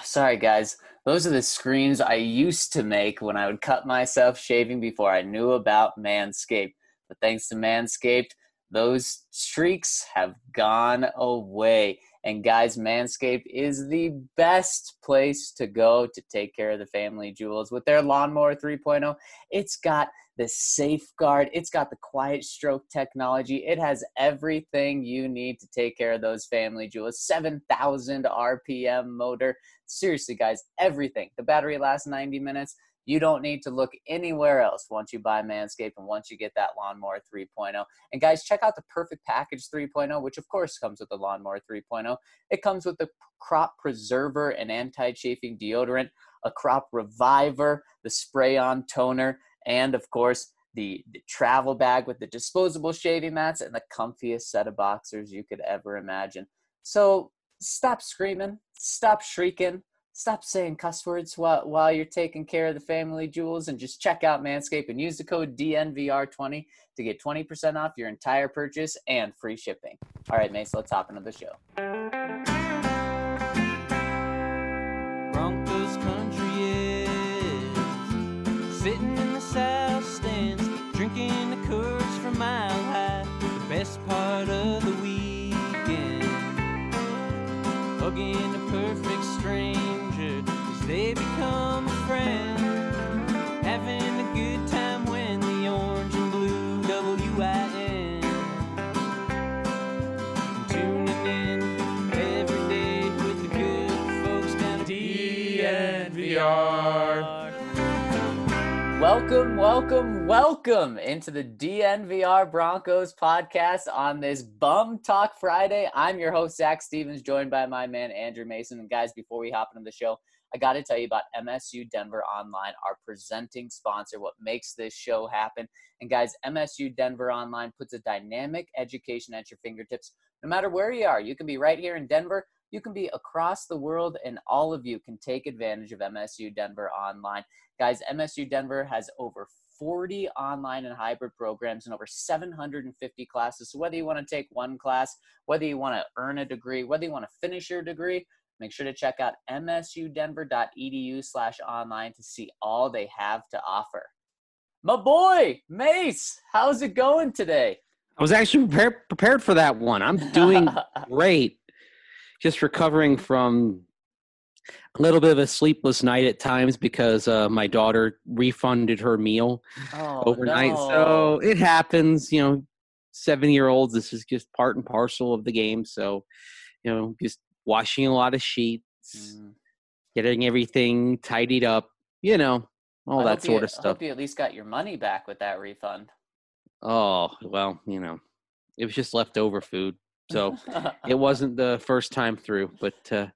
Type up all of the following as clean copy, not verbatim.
Sorry, guys. Those are the screams I used to make when I would cut myself shaving before I knew about Manscaped. But thanks to Manscaped, those streaks have gone away. And guys, Manscaped is the best place to go to take care of the family jewels. With their Lawnmower 3.0, it's got the safeguard, it's got the quiet stroke technology. It has everything you need to take care of those family jewels. 7,000 RPM motor. Seriously, guys, everything. The battery lasts 90 minutes. You don't need to look anywhere else once you buy Manscaped and once you get that Lawnmower 3.0. And guys, check out the Perfect Package 3.0, which of course comes with the Lawnmower 3.0. It comes with the Crop Preserver and anti-chafing deodorant, a Crop Reviver, the spray-on toner, and of course, the travel bag with the disposable shaving mats and the comfiest set of boxers you could ever imagine. So stop screaming, stop shrieking, stop saying cuss words while you're taking care of the family jewels, and just check out Manscaped and use the code DNVR20 to get 20% off your entire purchase and free shipping. All right, Mace, let's hop into the show. Broncos country is sitting in the south stands, drinking the Coors from Mile High, the best part of the weekend, hugging a perfect stranger as they become a friend, having a good time when the orange and blue WIN, tuning in every day with the good folks down at DNVR. Welcome into the DNVR Broncos podcast on this Bum Talk Friday. I'm your host, Zach Stevens, joined by my man, Andrew Mason. And guys, before we hop into the show, I got to tell you about MSU Denver Online, our presenting sponsor, what makes this show happen. And guys, MSU Denver Online puts a dynamic education at your fingertips. No matter where you are, you can be right here in Denver, you can be across the world, and all of you can take advantage of MSU Denver Online. Guys, MSU Denver has over 40 online and hybrid programs and over 750 classes. So whether you want to take one class, whether you want to earn a degree, whether you want to finish your degree, make sure to check out msudenver.edu/online to see all they have to offer. My boy, Mace, how's it going today? I was actually prepared for that one. I'm doing great. Just recovering from a little bit of a sleepless night at times because my daughter refunded her meal overnight. No. So it happens, 7-year-olds, this is just part and parcel of the game. So, just washing a lot of sheets, getting everything tidied up, all that sort of stuff. I hope you at least got your money back with that refund. Oh, well, it was just leftover food. So it wasn't the first time through, but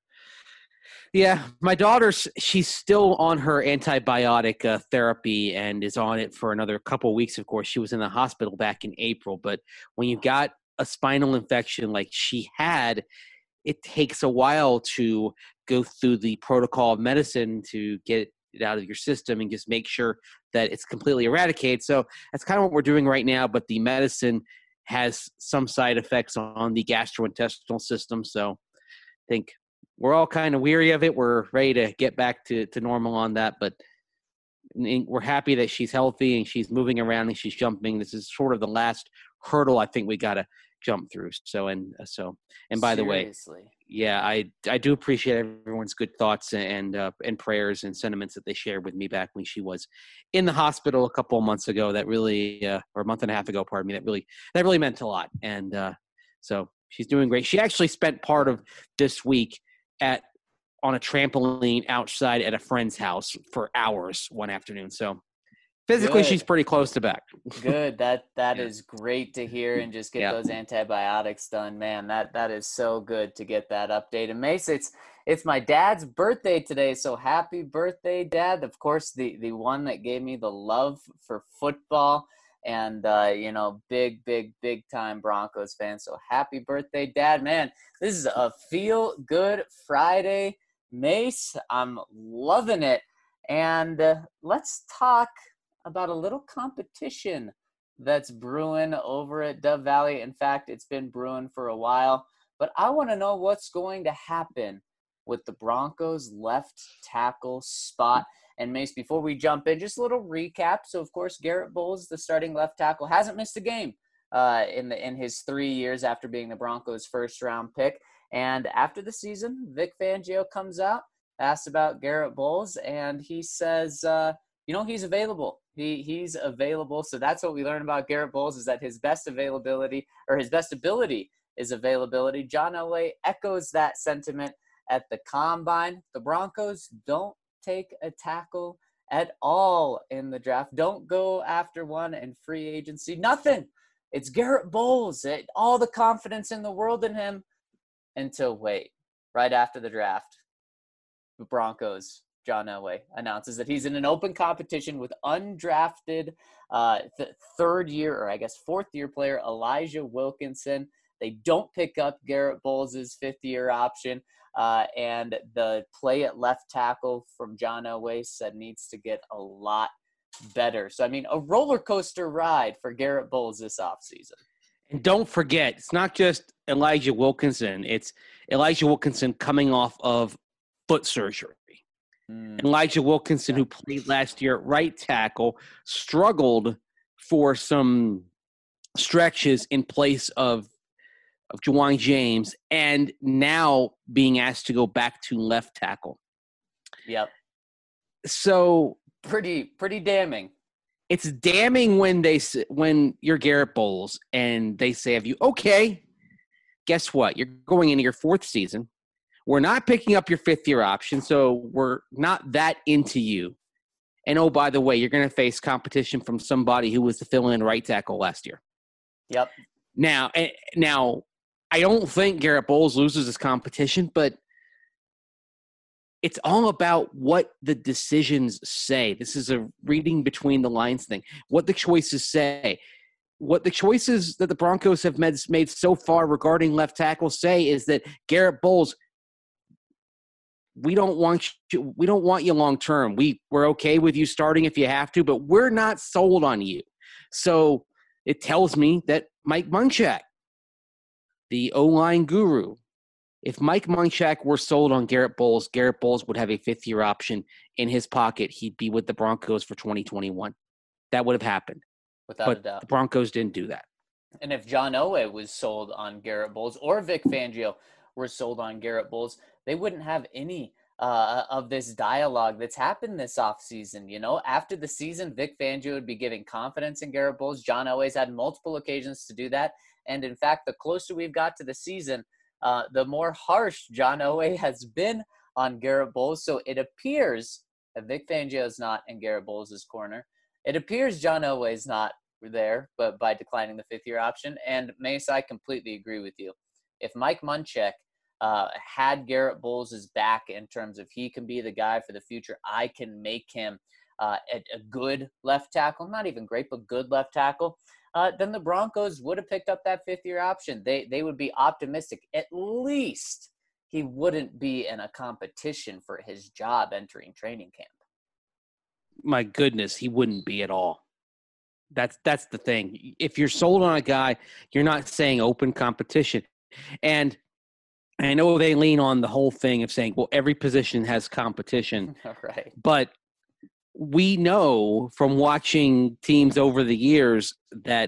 yeah, my daughter, she's still on her antibiotic therapy and is on it for another couple of weeks. Of course, she was in the hospital back in April, but when you got a spinal infection like she had, it takes a while to go through the protocol of medicine to get it out of your system and just make sure that it's completely eradicated. So that's kind of what we're doing right now, but the medicine has some side effects on the gastrointestinal system. So I think we're all kind of weary of it. We're ready to get back to normal on that, but we're happy that she's healthy and she's moving around and she's jumping. This is sort of the last hurdle I think we got to jump through. And by the way, yeah, I do appreciate everyone's good thoughts and prayers and sentiments that they shared with me back when she was in the hospital a couple of months ago. That really, or a month and a half ago, pardon me. That really meant a lot. And so she's doing great. She actually spent part of this week on a trampoline outside at a friend's house for hours one afternoon. So physically, Good. She's pretty close to back. Good. That is great to hear, and just get those antibiotics done. Man, that is so good to get that update. And Mace, it's my dad's birthday today, so happy birthday, Dad. Of course, the one that gave me the love for football, and big time Broncos fan. So happy birthday, Dad. Man, this is a feel good Friday, Mace. I'm loving it. And let's talk about a little competition that's brewing over at Dove Valley. In fact, it's been brewing for a while, but I want to know what's going to happen with the Broncos left tackle spot. And Mace, before we jump in, just a little recap. So, of course, Garrett Bowles, the starting left tackle, hasn't missed a game in his 3 years after being the Broncos' first-round pick. And after the season, Vic Fangio comes out, asks about Garrett Bowles, and he says, he's available. He's available. So that's what we learned about Garrett Bowles, is that his best ability is availability. John Elway echoes that sentiment at the Combine. The Broncos don't take a tackle at all in the draft. Don't go after one in free agency. Nothing. It's Garrett Bowles. All the confidence in the world in him until right after the draft, the Broncos, John Elway announces that he's in an open competition with undrafted fourth-year player Elijah Wilkinson. They don't pick up Garrett Bowles' fifth-year option. And the play at left tackle from John Elway said needs to get a lot better. So, a roller coaster ride for Garrett Bowles this offseason. And don't forget, it's not just Elijah Wilkinson. It's Elijah Wilkinson coming off of foot surgery. Elijah Wilkinson, who played last year at right tackle, struggled for some stretches in place of Ja'Wuan James, and now being asked to go back to left tackle. Yep. So pretty damning. It's damning when you're Garrett Bowles and they say of you, okay, guess what? You're going into your fourth season. We're not picking up your fifth-year option, so we're not that into you. And, oh, by the way, you're going to face competition from somebody who was the fill-in right tackle last year. Yep. Now, I don't think Garrett Bowles loses his competition, but it's all about what the decisions say. This is a reading between the lines thing. What the choices say. What the choices that the Broncos have made so far regarding left tackle say is that Garrett Bowles, we don't want you long term. We're okay with you starting if you have to, but we're not sold on you. So it tells me that Mike Munchak, the O-line guru, if Mike Munchak were sold on Garrett Bowles would have a fifth-year option in his pocket. He'd be with the Broncos for 2021. That would have happened. Without a doubt. The Broncos didn't do that. And if John Elway was sold on Garrett Bowles or Vic Fangio were sold on Garrett Bowles, they wouldn't have any of this dialogue that's happened this offseason. After the season, Vic Fangio would be giving confidence in Garrett Bowles. John Elway's had multiple occasions to do that. And in fact, the closer we've got to the season, the more harsh John Elway has been on Garrett Bowles. So it appears that Vic Fangio is not in Garrett Bowles' corner. It appears John Elway's not there, but by declining the fifth-year option. And Mace, I completely agree with you. If Mike Munchak had Garrett Bowles' back in terms of he can be the guy for the future, I can make him a good left tackle, not even great, but good left tackle, then the Broncos would have picked up that fifth-year option. They would be optimistic. At least he wouldn't be in a competition for his job entering training camp. My goodness, he wouldn't be at all. That's the thing. If you're sold on a guy, you're not saying open competition. And I know they lean on the whole thing of saying, well, every position has competition. Right. But we know from watching teams over the years that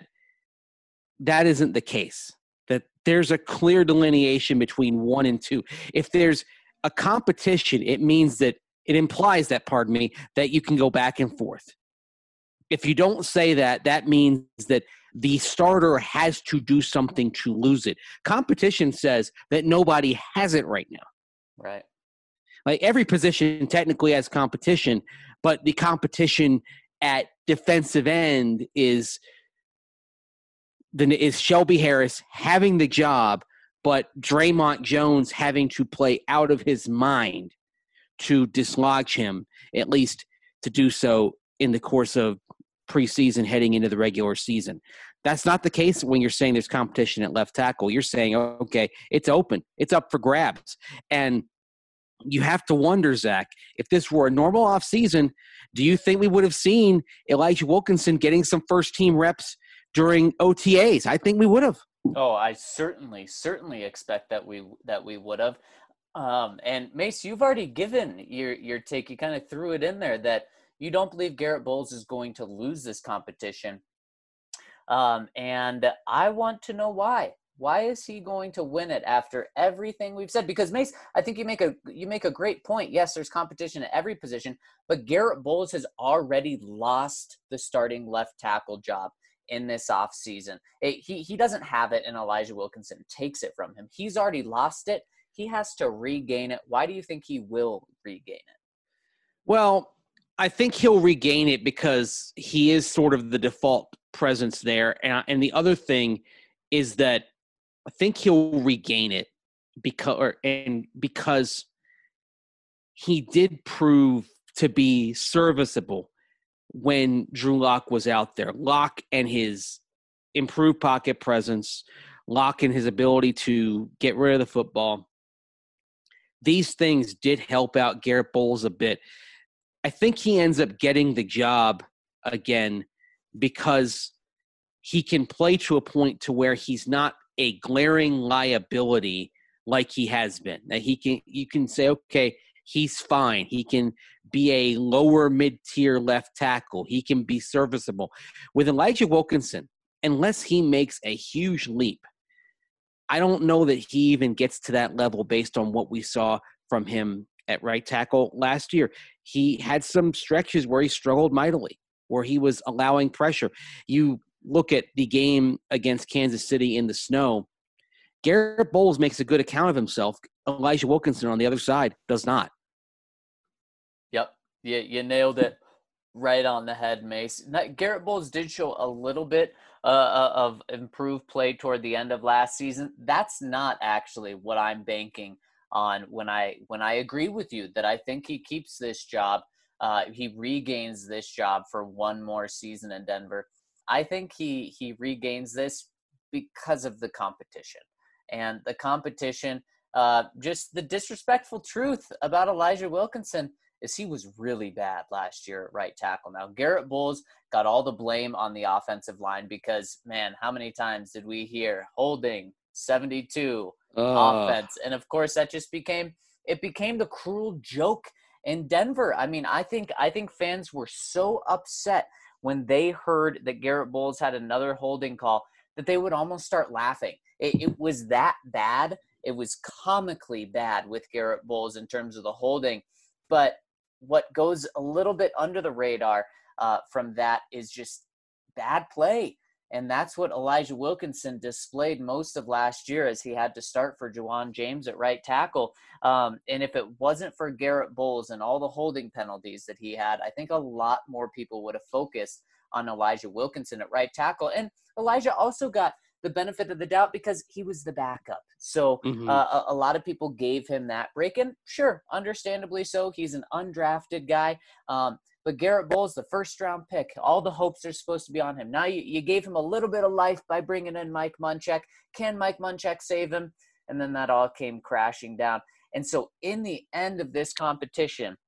isn't the case, that there's a clear delineation between 1 and 2. If there's a competition, it implies that you can go back and forth. If you don't say that, that means that the starter has to do something to lose it. Competition says that nobody has it right now. Right. Like every position technically has competition, but the competition at defensive end is Shelby Harris having the job, but Draymond Jones having to play out of his mind to dislodge him, at least to do so in the course of preseason heading into the regular season. That's not the case when you're saying there's competition at left tackle. You're saying, okay, it's open. It's up for grabs. And you have to wonder, Zach, if this were a normal offseason, do you think we would have seen Elijah Wilkinson getting some first-team reps during OTAs? I think we would have. Oh, I certainly expect that we would have. And Mace, you've already given your take. You kind of threw it in there that you don't believe Garrett Bowles is going to lose this competition. And I want to know why. Why is he going to win it after everything we've said? Because Mace, I think you make a great point. Yes, there's competition at every position, but Garrett Bowles has already lost the starting left tackle job in this offseason. He doesn't have it, and Elijah Wilkinson takes it from him. He's already lost it. He has to regain it. Why do you think he will regain it? Well, I think he'll regain it because he is sort of the default presence there. And the other thing is that I think he'll regain it because he did prove to be serviceable when Drew Lock was out there. Lock and his improved pocket presence, Lock and his ability to get rid of the football. These things did help out Garrett Bowles a bit. I think he ends up getting the job again because he can play to a point to where he's not a glaring liability like he has been. That you can say, okay, he's fine. He can be a lower mid-tier left tackle. He can be serviceable. With Elijah Wilkinson, unless he makes a huge leap, I don't know that he even gets to that level based on what we saw from him at right tackle last year. He had some stretches where he struggled mightily, where he was allowing pressure. You look at the game against Kansas City in the snow, Garrett Bowles makes a good account of himself. Elijah Wilkinson on the other side does not. Yep. You nailed it right on the head, Mace. Garrett Bowles did show a little bit of improved play toward the end of last season. That's not actually what I'm banking on when I agree with you that I think he keeps this job. He regains this job for one more season in Denver. I think he regains this because of the competition. And the competition, just the disrespectful truth about Elijah Wilkinson is he was really bad last year at right tackle. Now, Garrett Bowles got all the blame on the offensive line because, man, how many times did we hear holding 72 offense? And, of course, that just became the cruel joke in Denver. I mean, I think fans were so upset when they heard that Garrett Bowles had another holding call that they would almost start laughing. It was that bad. It was comically bad with Garrett Bowles in terms of the holding. But what goes a little bit under the radar from that is just bad play. And that's what Elijah Wilkinson displayed most of last year as he had to start for Juwan James at right tackle. And if it wasn't for Garrett Bowles and all the holding penalties that he had, I think a lot more people would have focused on Elijah Wilkinson at right tackle. And Elijah also got the benefit of the doubt because he was the backup. So a lot of people gave him that break. And sure, understandably so. He's an undrafted guy. But Garrett Bowles, the first-round pick, all the hopes are supposed to be on him. Now you gave him a little bit of life by bringing in Mike Munchak. Can Mike Munchak save him? And then that all came crashing down. And so in the end of this competition,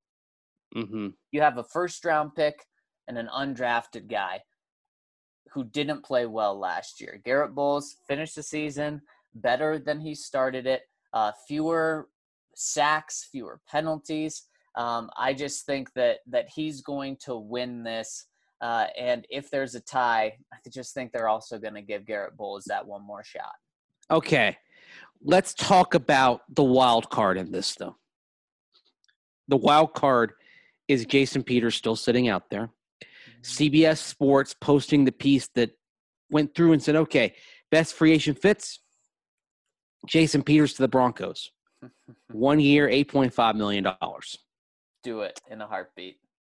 you have a first-round pick and an undrafted guy who didn't play well last year. Garrett Bowles finished the season better than he started it. Fewer sacks, fewer penalties. I just think that he's going to win this. And if there's a tie, I just think they're also going to give Garrett Bowles that one more shot. Okay. Let's talk about the wild card in this, though. The wild card is Jason Peters still sitting out there. CBS Sports posting the piece that went through and said, okay, best free agent fits, Jason Peters to the Broncos. 1 year, $8.5 million. Do it in a heartbeat.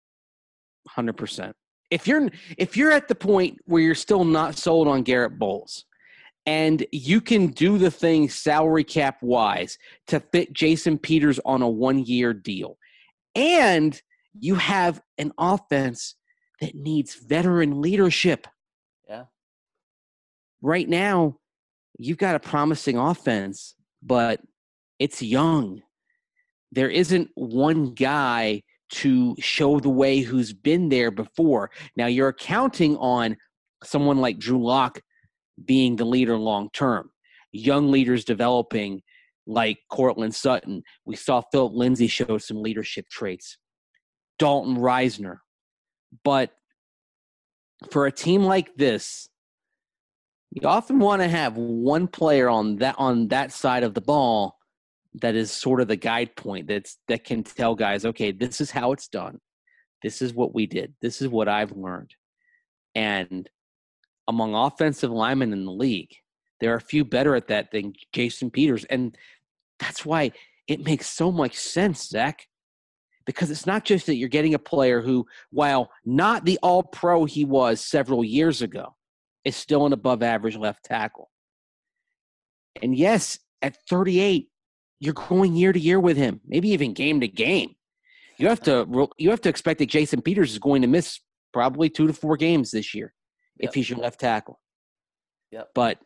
100%. If you're at the point where you're still not sold on Garrett Bowles and you can do the thing salary cap wise to fit Jason Peters on a 1 year deal, and you have an offense that needs veteran leadership. Yeah. Right now, you've got a promising offense, but it's young. There isn't one guy to show the way who's been there before. Now, you're counting on someone like Drew Lock being the leader long term, young leaders developing, like Cortland Sutton. We saw Philip Lindsay show some leadership traits. Dalton Reisner. But for a team like this, you often want to have one player on that side of the ball that is sort of the guide point that can tell guys, okay, this is how it's done. This is what we did. This is what I've learned. And among offensive linemen in the league, there are a few better at that than Jason Peters. And that's why it makes so much sense, Zach, because it's not just that you're getting a player who, while not the all-pro he was several years ago, is still an above-average left tackle. And yes, at 38, you're going year to year with him, maybe even game to game. You have to expect that Jason Peters is going to miss probably 2 to 4 games this year if he's your left tackle. Yep. But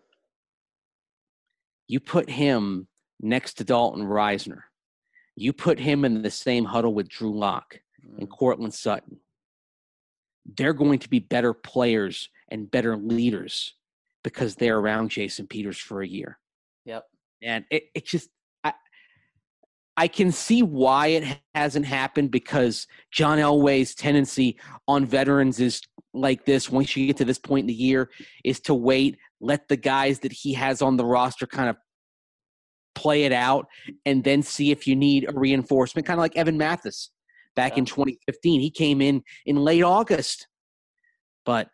you put him next to Dalton Reisner. You put him in the same huddle with Drew Lock and Cortland Sutton. They're going to be better players and better leaders because they're around Jason Peters for a year. Yep. And it just I can see why it hasn't happened, because John Elway's tendency on veterans is like this. Once you get to this point in the year, is to wait, let the guys that he has on the roster kind of play it out, and then see if you need a reinforcement, kind of like Evan Mathis back in 2015. He came in late August. But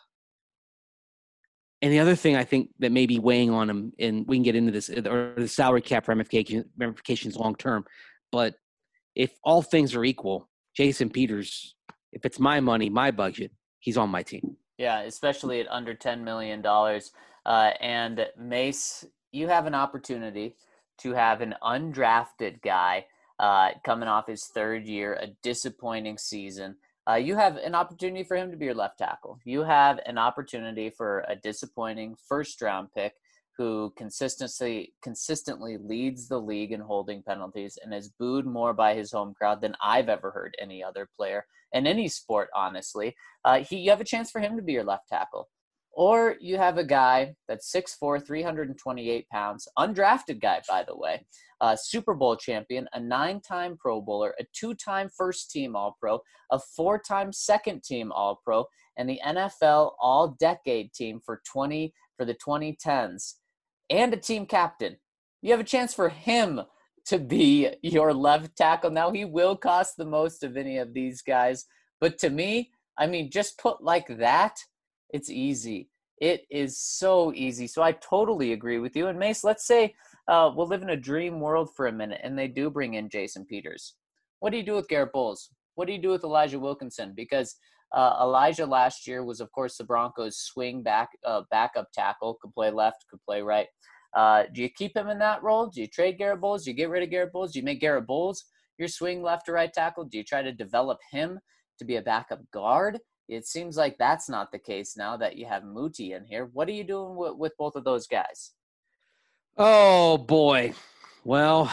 and the other thing I think that may be weighing on him, and we can get into this, or the salary cap ramifications long term, but if all things are equal, Jason Peters, if it's my money, my budget, he's on my team. Yeah, especially at under $10 million. And Mace, you have an opportunity to have an undrafted guy coming off his third year, a disappointing season. You have an opportunity for him to be your left tackle. You have an opportunity for a disappointing first-round pick who consistently leads the league in holding penalties and is booed more by his home crowd than I've ever heard any other player in any sport, honestly. You have a chance for him to be your left tackle. Or you have a guy that's 6'4", 328 pounds, undrafted guy, by the way, Super Bowl champion, a 9-time Pro Bowler, a 2-time first-team All-Pro, a 4-time second-team All-Pro, and the NFL All-Decade team for the 2010s, and a team captain. You have a chance for him to be your left tackle. Now, he will cost the most of any of these guys, but to me, I mean, just put like that, it's easy. It is so easy. So I totally agree with you. And Mace, let's say we'll live in a dream world for a minute and they do bring in Jason Peters. What do you do with Garrett Bowles? What do you do with Elijah Wilkinson? Because Elijah last year was, of course, the Broncos' swing backup tackle, could play left, could play right. Do you keep him in that role? Do you trade Garrett Bowles? Do you get rid of Garrett Bowles? Do you make Garrett Bowles your swing left or right tackle? Do you try to develop him to be a backup guard? It seems like that's not the case now that you have Muti in here. What are you doing with both of those guys? Oh, boy. Well,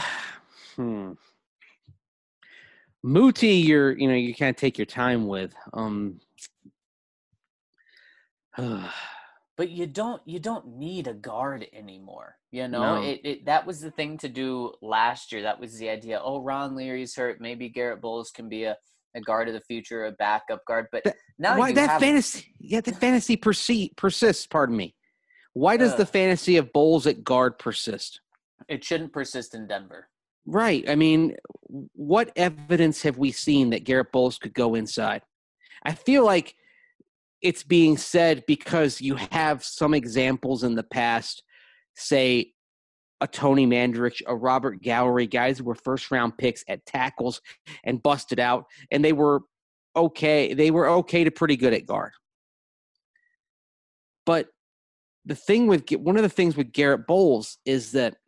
Muti, you can't take your time with. But you don't need a guard anymore. No. That was the thing to do last year. That was the idea. Oh, Ron Leary's hurt. Maybe Garrett Bowles can be a guard of the future, a backup guard. But the fantasy persists. Pardon me. Why does the fantasy of Bowles at guard persist? It shouldn't persist in Denver. Right. I mean, what evidence have we seen that Garrett Bowles could go inside? I feel like it's being said because you have some examples in the past, say a Tony Mandarich, a Robert Gallery, guys who were first-round picks at tackles and busted out, and they were okay. They were okay to pretty good at guard. But one of the things with Garrett Bowles is that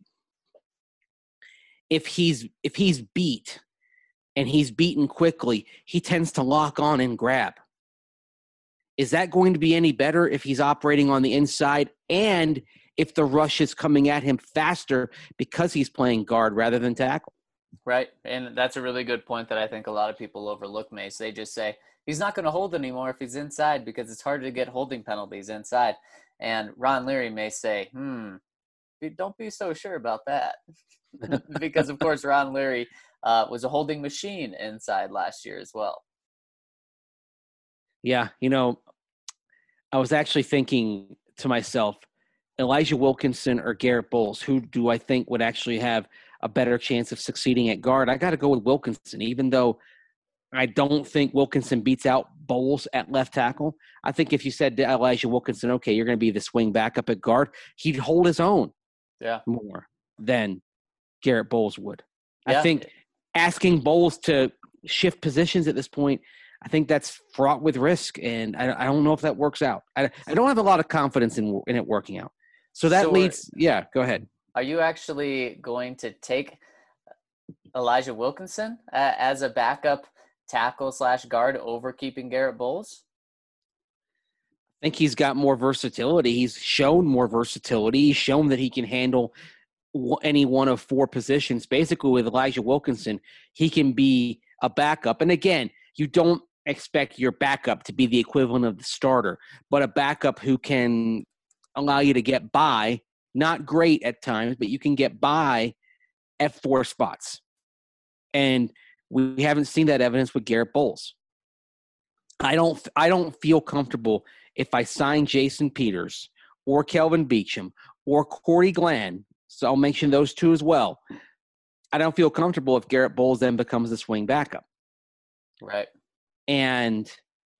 if he's beat and he's beaten quickly, he tends to lock on and grab. Is that going to be any better if he's operating on the inside and if the rush is coming at him faster because he's playing guard rather than tackle? Right, and that's a really good point that I think a lot of people overlook, Mace. They just say, he's not going to hold anymore if he's inside because it's harder to get holding penalties inside. And Ron Leary may say, don't be so sure about that. because, of course, Ron Leary was a holding machine inside last year as well. Yeah, I was actually thinking to myself, Elijah Wilkinson or Garrett Bowles, who do I think would actually have a better chance of succeeding at guard? I got to go with Wilkinson, even though I don't think Wilkinson beats out Bowles at left tackle. I think if you said to Elijah Wilkinson, okay, you're going to be the swing backup at guard, he'd hold his own more than Garrett Bowles would. Yeah. I think asking Bowles to shift positions at this point, I think that's fraught with risk, and I don't know if that works out. I don't have a lot of confidence in it working out. So that leads – yeah, go ahead. Are you actually going to take Elijah Wilkinson as a backup tackle/guard over keeping Garrett Bowles? I think he's got more versatility. He's shown more versatility. He's shown that he can handle any one of four positions. Basically, with Elijah Wilkinson, he can be a backup. And again, you don't expect your backup to be the equivalent of the starter, but a backup who can allow you to get by, not great at times, but you can get by at four spots. And we haven't seen that evidence with Garrett Bowles. I don't feel comfortable if I sign Jason Peters or Kelvin Beachum or Corey Glenn, so I'll mention those two as well. I don't feel comfortable if Garrett Bowles then becomes the swing backup. Right. And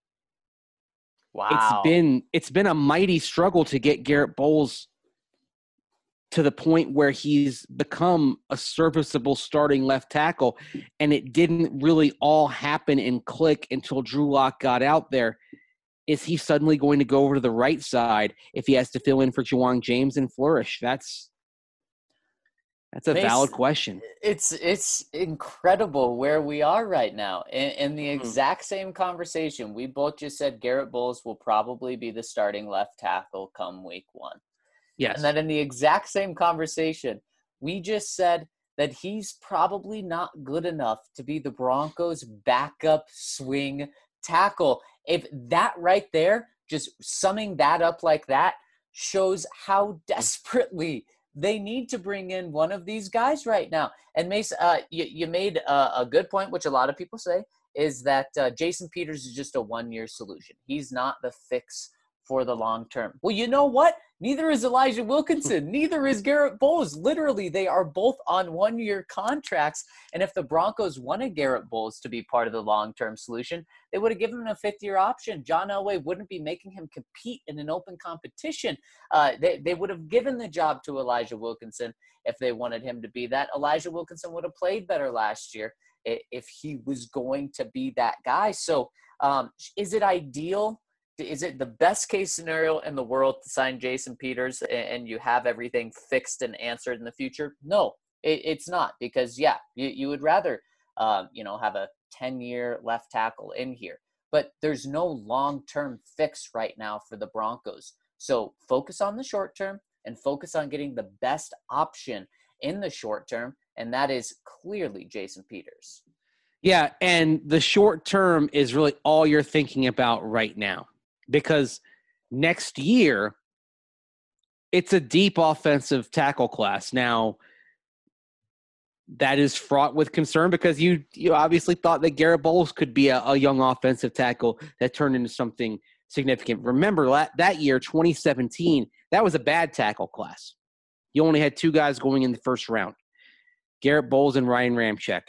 wow, it's been a mighty struggle to get Garrett Bowles to the point where he's become a serviceable starting left tackle, and it didn't really all happen and click until Drew Lock got out there. Is he suddenly going to go over to the right side if he has to fill in for Juwan James and Flourish? That's a valid question. It's incredible where we are right now. In the exact same conversation, we both just said Garrett Bowles will probably be the starting left tackle come week 1. Yes. And then in the exact same conversation, we just said that he's probably not good enough to be the Broncos' backup swing tackle. If that right there, just summing that up like that, shows how desperately they need to bring in one of these guys right now. And Mace, you made a good point, which a lot of people say, is that Jason Peters is just a one-year solution. He's not the fix for the long term. Well, you know what? Neither is Elijah Wilkinson. Neither is Garrett Bowles. Literally, they are both on one-year contracts. And if the Broncos wanted Garrett Bowles to be part of the long-term solution, they would have given him a fifth-year option. John Elway wouldn't be making him compete in an open competition. They would have given the job to Elijah Wilkinson if they wanted him to be that. Elijah Wilkinson would have played better last year if he was going to be that guy. So is it ideal? Is it the best case scenario in the world to sign Jason Peters and you have everything fixed and answered in the future? No, it's not, because you would rather, have a 10-year left tackle in here, but there's no long-term fix right now for the Broncos. So focus on the short term and focus on getting the best option in the short term. And that is clearly Jason Peters. Yeah. And the short term is really all you're thinking about right now. Because next year, it's a deep offensive tackle class. Now, that is fraught with concern because you obviously thought that Garrett Bowles could be a young offensive tackle that turned into something significant. Remember, that year, 2017, that was a bad tackle class. You only had two guys going in the first round, Garrett Bowles and Ryan Ramczyk.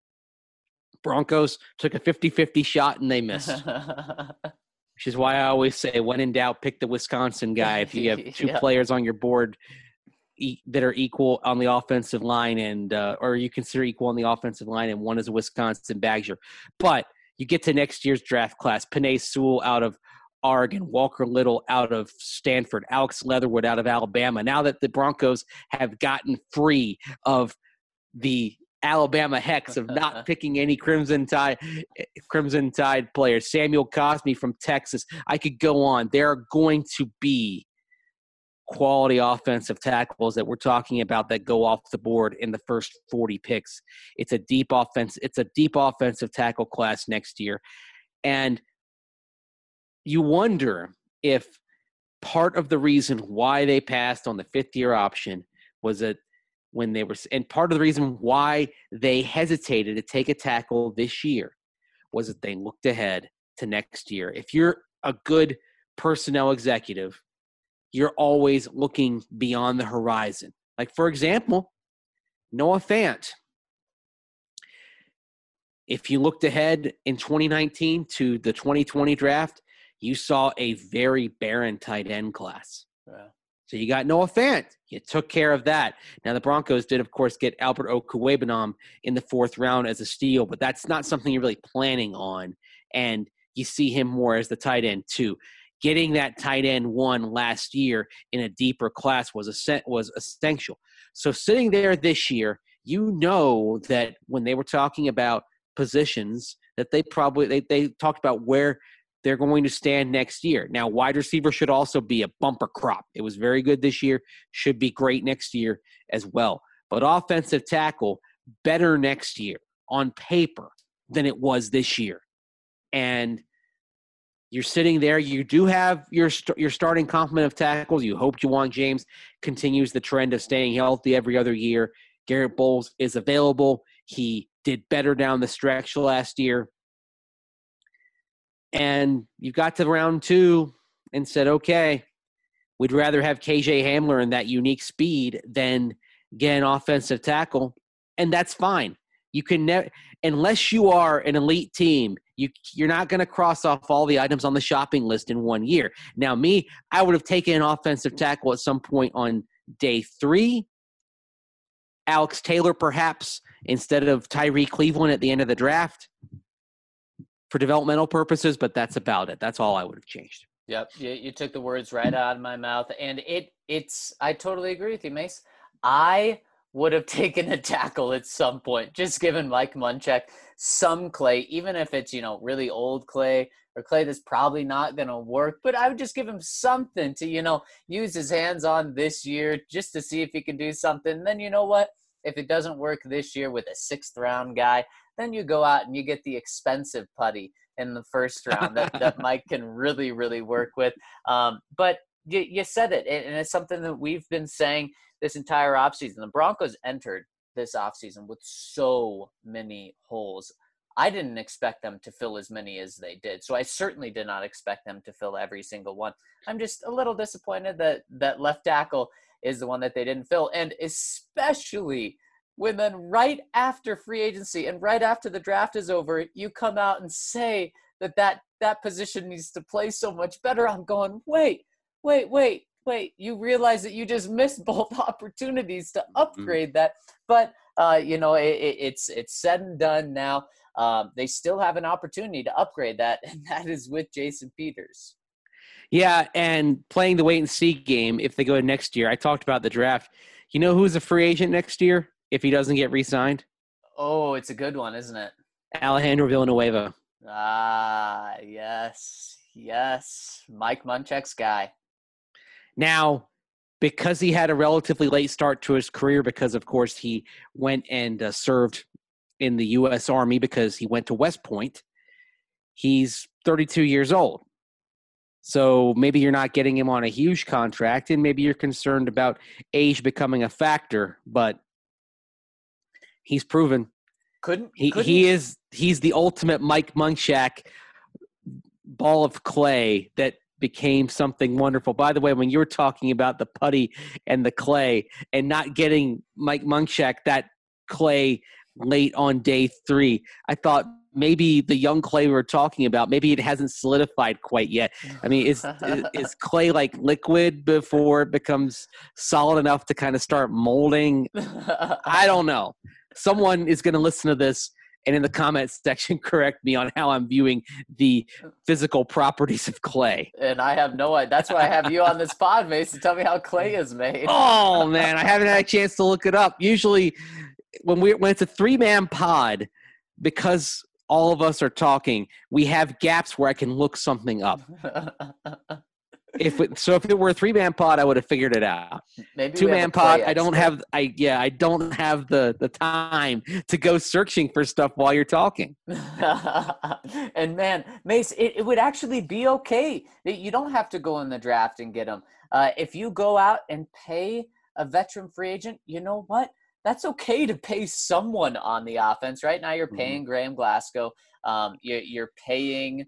Broncos took a 50-50 shot and they missed. Which is why I always say, when in doubt, pick the Wisconsin guy. If you have two players on your board that are equal on the offensive line, and or you consider equal on the offensive line, and one is a Wisconsin Badger. But you get to next year's draft class: Penei Sewell out of Oregon, Walker Little out of Stanford, Alex Leatherwood out of Alabama. Now that the Broncos have gotten free of the Alabama hex of not picking any Crimson Tide players, Samuel Cosmi from Texas, I could go on. There are going to be quality offensive tackles that we're talking about that go off the board in the first 40 picks. It's a deep offensive tackle class next year. And you wonder if part of the reason why they passed on the fifth-year option was that when they were, and part of the reason why they hesitated to take a tackle this year was that they looked ahead to next year. If you're a good personnel executive, you're always looking beyond the horizon. Like, for example, Noah Fant. If you looked ahead in 2019 to the 2020 draft, you saw a very barren tight end class. Yeah. So you got Noah Fant. You took care of that. Now, the Broncos did, of course, get Albert Okwuegbunam in the 4th round as a steal, but that's not something you're really planning on. And you see him more as the tight end, too. Getting that tight end 1 last year in a deeper class was essential. So sitting there this year, you know that when they were talking about positions, that they talked about where they're going to stand next year. Now, wide receiver should also be a bumper crop. It was very good this year, should be great next year as well. But offensive tackle, better next year on paper than it was this year. And you're sitting there. You do have your starting complement of tackles. You hope Juwan James continues the trend of staying healthy every other year. Garrett Bowles is available. He did better down the stretch last year. And you got to round 2 and said, okay, we'd rather have KJ Hamler and that unique speed than get an offensive tackle. And that's fine. You can never, unless you are an elite team, you're not going to cross off all the items on the shopping list in 1 year. Now, I would have taken an offensive tackle at some point on day 3. Alex Taylor, perhaps, instead of Tyree Cleveland at the end of the draft for developmental purposes, but that's about it. That's all I would have changed. Yep, you took the words right out of my mouth, and I totally agree with you, Mace. I would have taken a tackle at some point, just given Mike Munchak some clay, even if it's, really old clay or clay that's probably not going to work, but I would just give him something to, use his hands on this year just to see if he can do something. And then you know what? If it doesn't work this year with a 6th round guy, then you go out and you get the expensive putty in the 1st round that Mike can really, really work with. But you said it, and it's something that we've been saying this entire offseason. The Broncos entered this offseason with so many holes. I didn't expect them to fill as many as they did. So I certainly did not expect them to fill every single one. I'm just a little disappointed that left tackle is the one that they didn't fill. And especially when then right after free agency and right after the draft is over, you come out and say that position needs to play so much better. I'm going, wait. You realize that you just missed both opportunities to upgrade that. But, it's said and done now. They still have an opportunity to upgrade that, and that is with Jason Peters. Yeah, and playing the wait-and-see game if they go next year. I talked about the draft. You know who's a free agent next year if he doesn't get re-signed? Oh, it's a good one, isn't it? Alejandro Villanueva. Ah, yes. Mike Munchak's guy. Now, because he had a relatively late start to his career, because, of course, he went and served in the U.S. Army because he went to West Point, he's 32 years old. So maybe you're not getting him on a huge contract, and maybe you're concerned about age becoming a factor, but he's proven. He's the ultimate Mike Munchak ball of clay that became something wonderful. By the way, when you were talking about the putty and the clay and not getting Mike Munchak that clay late on day 3, I thought maybe the young clay we were talking about, maybe it hasn't solidified quite yet. I mean, is clay like liquid before it becomes solid enough to kind of start molding? I don't know. Someone is going to listen to this and in the comments section correct me on how I'm viewing the physical properties of clay. And I have no idea. That's why I have you on this pod, Mace, to tell me how clay is made. Oh, man, I haven't had a chance to look it up. Usually when it's a 3-man pod, because all of us are talking, we have gaps where I can look something up. If it were a 3-man pod, I would have figured it out. Maybe 2-man pod, I don't have the time to go searching for stuff while you're talking. And man, Mace, it would actually be okay that you don't have to go in the draft and get them. If you go out and pay a veteran free agent, you know what? that's okay to pay someone on the offense. Right now you're paying Graham Glasgow. You're paying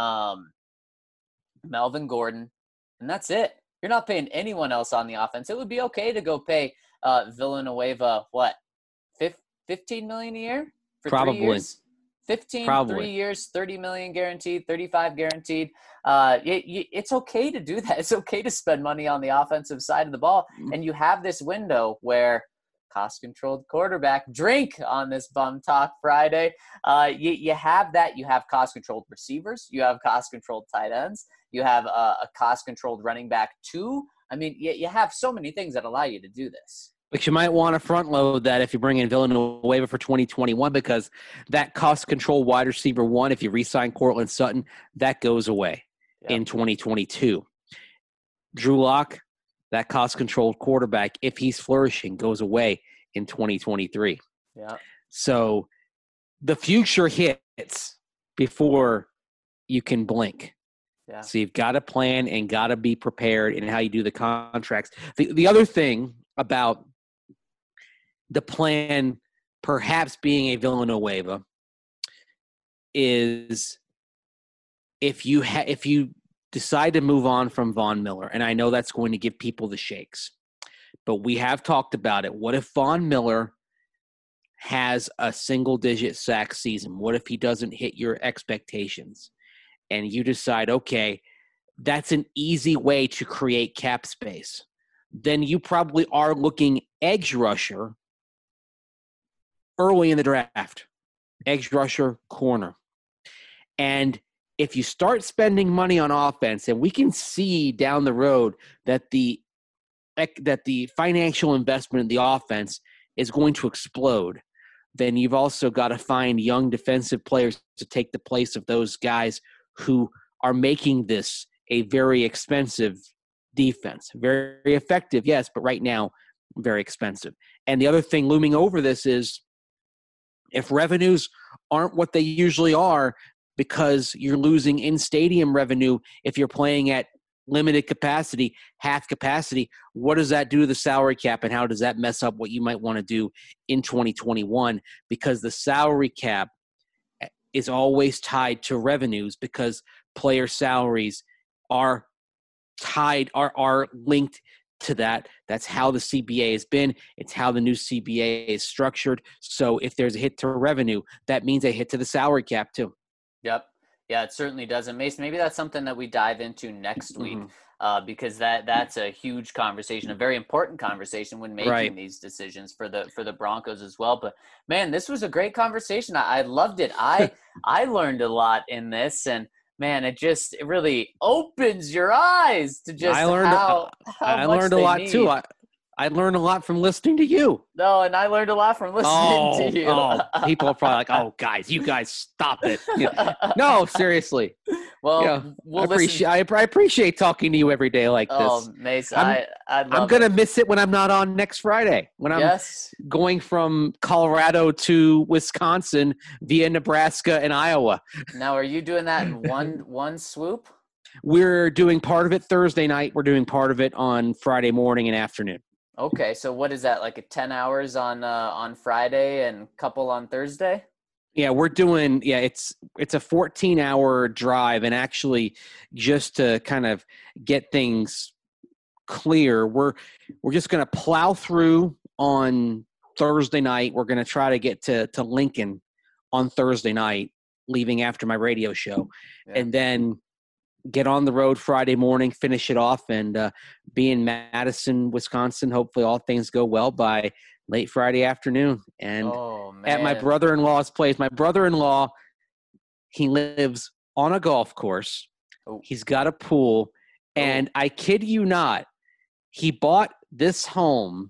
Melvin Gordon, and that's it. You're not paying anyone else on the offense. It would be okay to go pay Villanueva, what, $15 million a year for Probably. 3 years? 15, Probably. 3 years, $30 million guaranteed, 35 guaranteed. It's okay to do that. It's okay to spend money on the offensive side of the ball. And you have this window where cost-controlled quarterback, drink on this Bum Talk Friday. You have that. You have cost-controlled receivers. You have cost-controlled tight ends. You have a cost-controlled running back too. I mean, you have so many things that allow you to do this. But you might want to front load that if you bring in Villanueva for 2021, because that cost control wide receiver one, if you re-sign Cortland Sutton, that goes away in 2022. Drew Lock, that cost controlled quarterback, if he's flourishing, goes away in 2023. Yeah. So the future hits before you can blink. Yeah. So you've got to plan and got to be prepared in how you do the contracts. The other thing about the plan perhaps being a Villanueva is if you decide to move on from Von Miller, and I know that's going to give people the shakes, but we have talked about it. What if Von Miller has a single-digit sack season? What if he doesn't hit your expectations? And you decide, okay, that's an easy way to create cap space. Then you probably are looking edge rusher early in the draft, edge rusher, corner. And if you start spending money on offense, and we can see down the road that the financial investment in the offense is going to explode, then you've also got to find young defensive players to take the place of those guys who are making this a very expensive defense. Very effective, yes, but right now, very expensive. And the other thing looming over this is, if revenues aren't what they usually are because you're losing in-stadium revenue if you're playing at limited capacity, half capacity, what does that do to the salary cap, and how does that mess up what you might want to do in 2021? Because the salary cap is always tied to revenues, because player salaries are linked to that. That's how the CBA has been. It's how the new CBA is structured. So if there's a hit to revenue, that means a hit to the salary cap too. Yep. Yeah, it certainly does. And Mason, maybe that's something that we dive into next week, because that's a huge conversation, a very important conversation when making these decisions for the Broncos as well. But man, this was a great conversation. I loved it. I learned a lot in this, and man, it really opens your eyes to just I learned a lot too. I learned a lot from listening to you. No, and I learned a lot from listening to you. People are probably like, "Oh, guys, you guys stop it." No, seriously. Well, I appreciate talking to you every day like this. Oh, Mason, I'm gonna miss it when I'm not on next Friday. When I'm going from Colorado to Wisconsin via Nebraska and Iowa. Now, are you doing that in one swoop? We're doing part of it Thursday night. We're doing part of it on Friday morning and afternoon. Okay, so what is that, like 10 hours on Friday and a couple on Thursday? Yeah, we're doing it's a 14-hour drive, and actually just to kind of get things clear, we're just going to plow through on Thursday night. We're going to try to get to Lincoln on Thursday night, leaving after my radio show, and then get on the road Friday morning, finish it off, and be in Madison, Wisconsin. Hopefully all things go well by late Friday afternoon. And at my brother-in-law's place. My brother-in-law, he lives on a golf course. He's got a pool. And I kid you not, he bought this home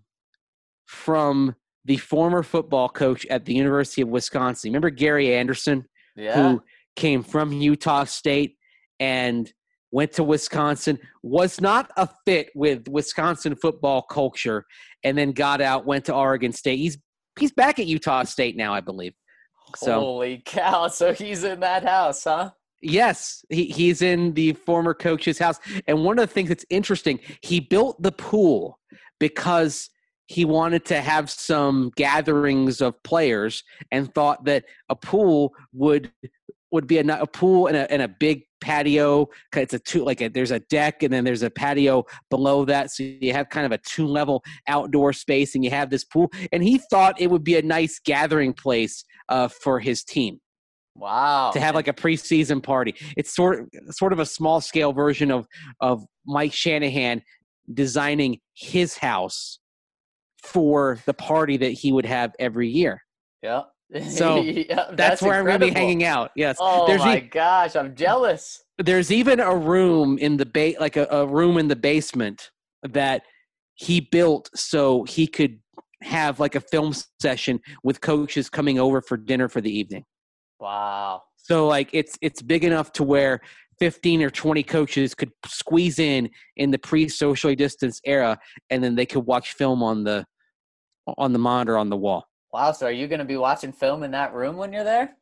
from the former football coach at the University of Wisconsin. Remember Gary Anderson, who came from Utah State and went to Wisconsin, was not a fit with Wisconsin football culture, and then got out, went to Oregon State. He's back at Utah State now, I believe. So, holy cow. So he's in that house, huh? Yes, he's in the former coach's house. And one of the things that's interesting, he built the pool because he wanted to have some gatherings of players and thought that a pool would be a pool and a big patio. It's there's a deck and then there's a patio below that. So you have kind of a 2-level outdoor space and you have this pool. And he thought it would be a nice gathering place for his team. Wow. To have like a preseason party. It's sort of a small scale version of Mike Shanahan designing his house for the party that he would have every year. Yeah. So yeah, that's where I'm going to be incredible. hanging out. Yes. Oh my gosh, I'm jealous. There's even a room in the a room in the basement that he built so he could have like a film session with coaches coming over for dinner for the evening. Wow. So like it's big enough to where 15 or 20 coaches could squeeze in the pre-socially distanced era, and then they could watch film on the monitor on the wall. Wow. So are you going to be watching film in that room when you're there?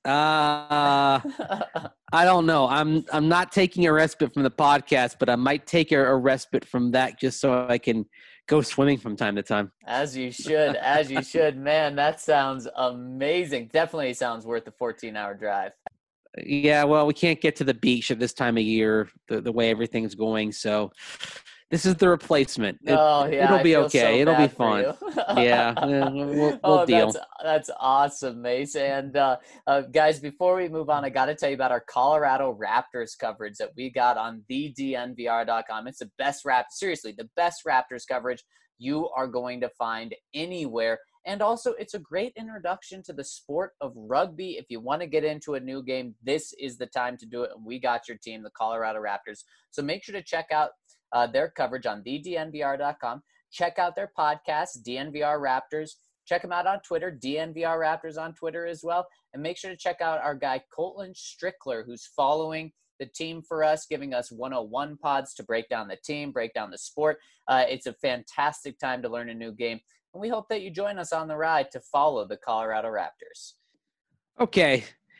I don't know. I'm not taking a respite from the podcast, but I might take a respite from that just so I can go swimming from time to time. As you should. As you should. Man, that sounds amazing. Definitely sounds worth the 14-hour drive. Yeah, well, we can't get to the beach at this time of year, the way everything's going. So this is the replacement. It'll be okay. So it'll be bad fun. Yeah, we'll deal. That's awesome, Mace. And guys, before we move on, I got to tell you about our Colorado Raptors coverage that we got on thednvr.com. It's the best seriously, the best Raptors coverage you are going to find anywhere. And also, it's a great introduction to the sport of rugby. If you want to get into a new game, this is the time to do it. And we got your team, the Colorado Raptors. So make sure to check out their coverage on thednvr.com. Check out their podcast, DNVR Raptors. Check them out on Twitter, DNVR Raptors on Twitter as well. And make sure to check out our guy, Colton Strickler, who's following the team for us, giving us 101 pods to break down the team, break down the sport. It's a fantastic time to learn a new game. And we hope that you join us on the ride to follow the Colorado Raptors. Okay.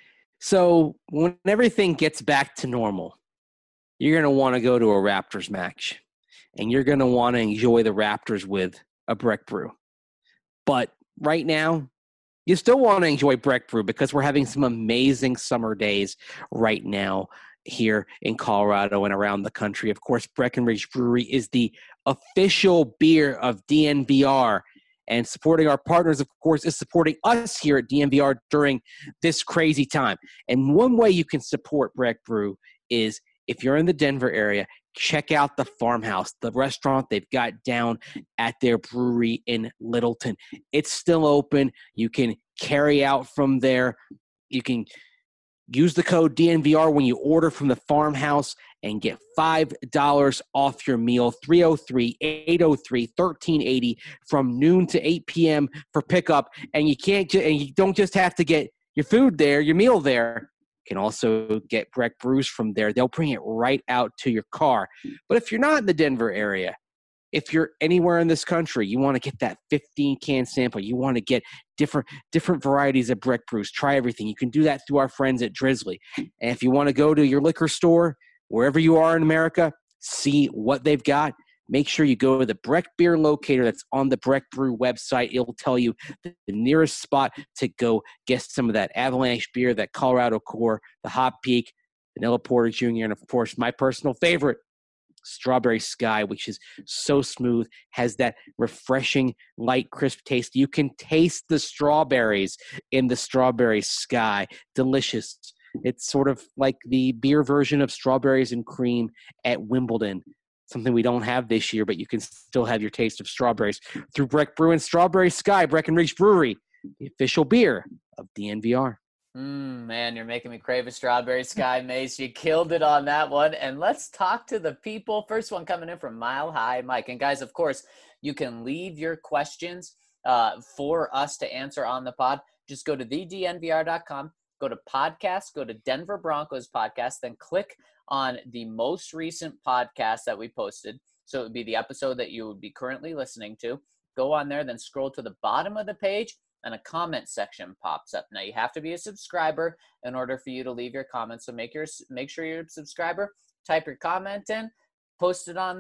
So when everything gets back to normal, you're going to want to go to a Raptors match, and you're going to want to enjoy the Raptors with a Breck Brew. But right now, you still want to enjoy Breck Brew because we're having some amazing summer days right now here in Colorado and around the country. Of course, Breckenridge Brewery is the official beer of DNVR, and supporting our partners, of course, is supporting us here at DNVR during this crazy time. And one way you can support Breck Brew is if you're in the Denver area, check out the Farmhouse, the restaurant they've got down at their brewery in Littleton. It's still open. You can carry out from there. You can use the code DNVR when you order from the Farmhouse and get $5 off your meal, 303-803-1380 from noon to 8 p.m. for pickup. And you don't just have to get your food there, your meal there. Can also get Breck Brews from there. They'll bring it right out to your car. But if you're not in the Denver area, if you're anywhere in this country, you want to get that 15-can sample. You want to get different varieties of Breck Brews. Try everything. You can do that through our friends at Drizzly. And if you want to go to your liquor store, wherever you are in America, see what they've got. Make sure you go to the Breck Beer Locator that's on the Breck Brew website. It'll tell you the nearest spot to go get some of that Avalanche beer, that Colorado Core, the Hop Peak, Vanilla Porter Jr., and, of course, my personal favorite, Strawberry Sky, which is so smooth, has that refreshing, light, crisp taste. You can taste the strawberries in the Strawberry Sky. Delicious. It's sort of like the beer version of Strawberries and Cream at Wimbledon. Something we don't have this year, but you can still have your taste of strawberries through Breck Brew and Strawberry Sky, Breckenridge Brewery, the official beer of DNVR. Man, you're making me crave a Strawberry Sky, Mace. You killed it on that one. And let's talk to the people. First one coming in from Mile High Mike. And guys, of course, you can leave your questions for us to answer on the pod. Just go to thednvr.com, go to podcast, go to Denver Broncos podcast, then click on the most recent podcast that we posted. So it would be the episode that you would be currently listening to. Go on there, then scroll to the bottom of the page, and a comment section pops up. Now, you have to be a subscriber in order for you to leave your comments. So make sure you're a subscriber, type your comment in, post it on there,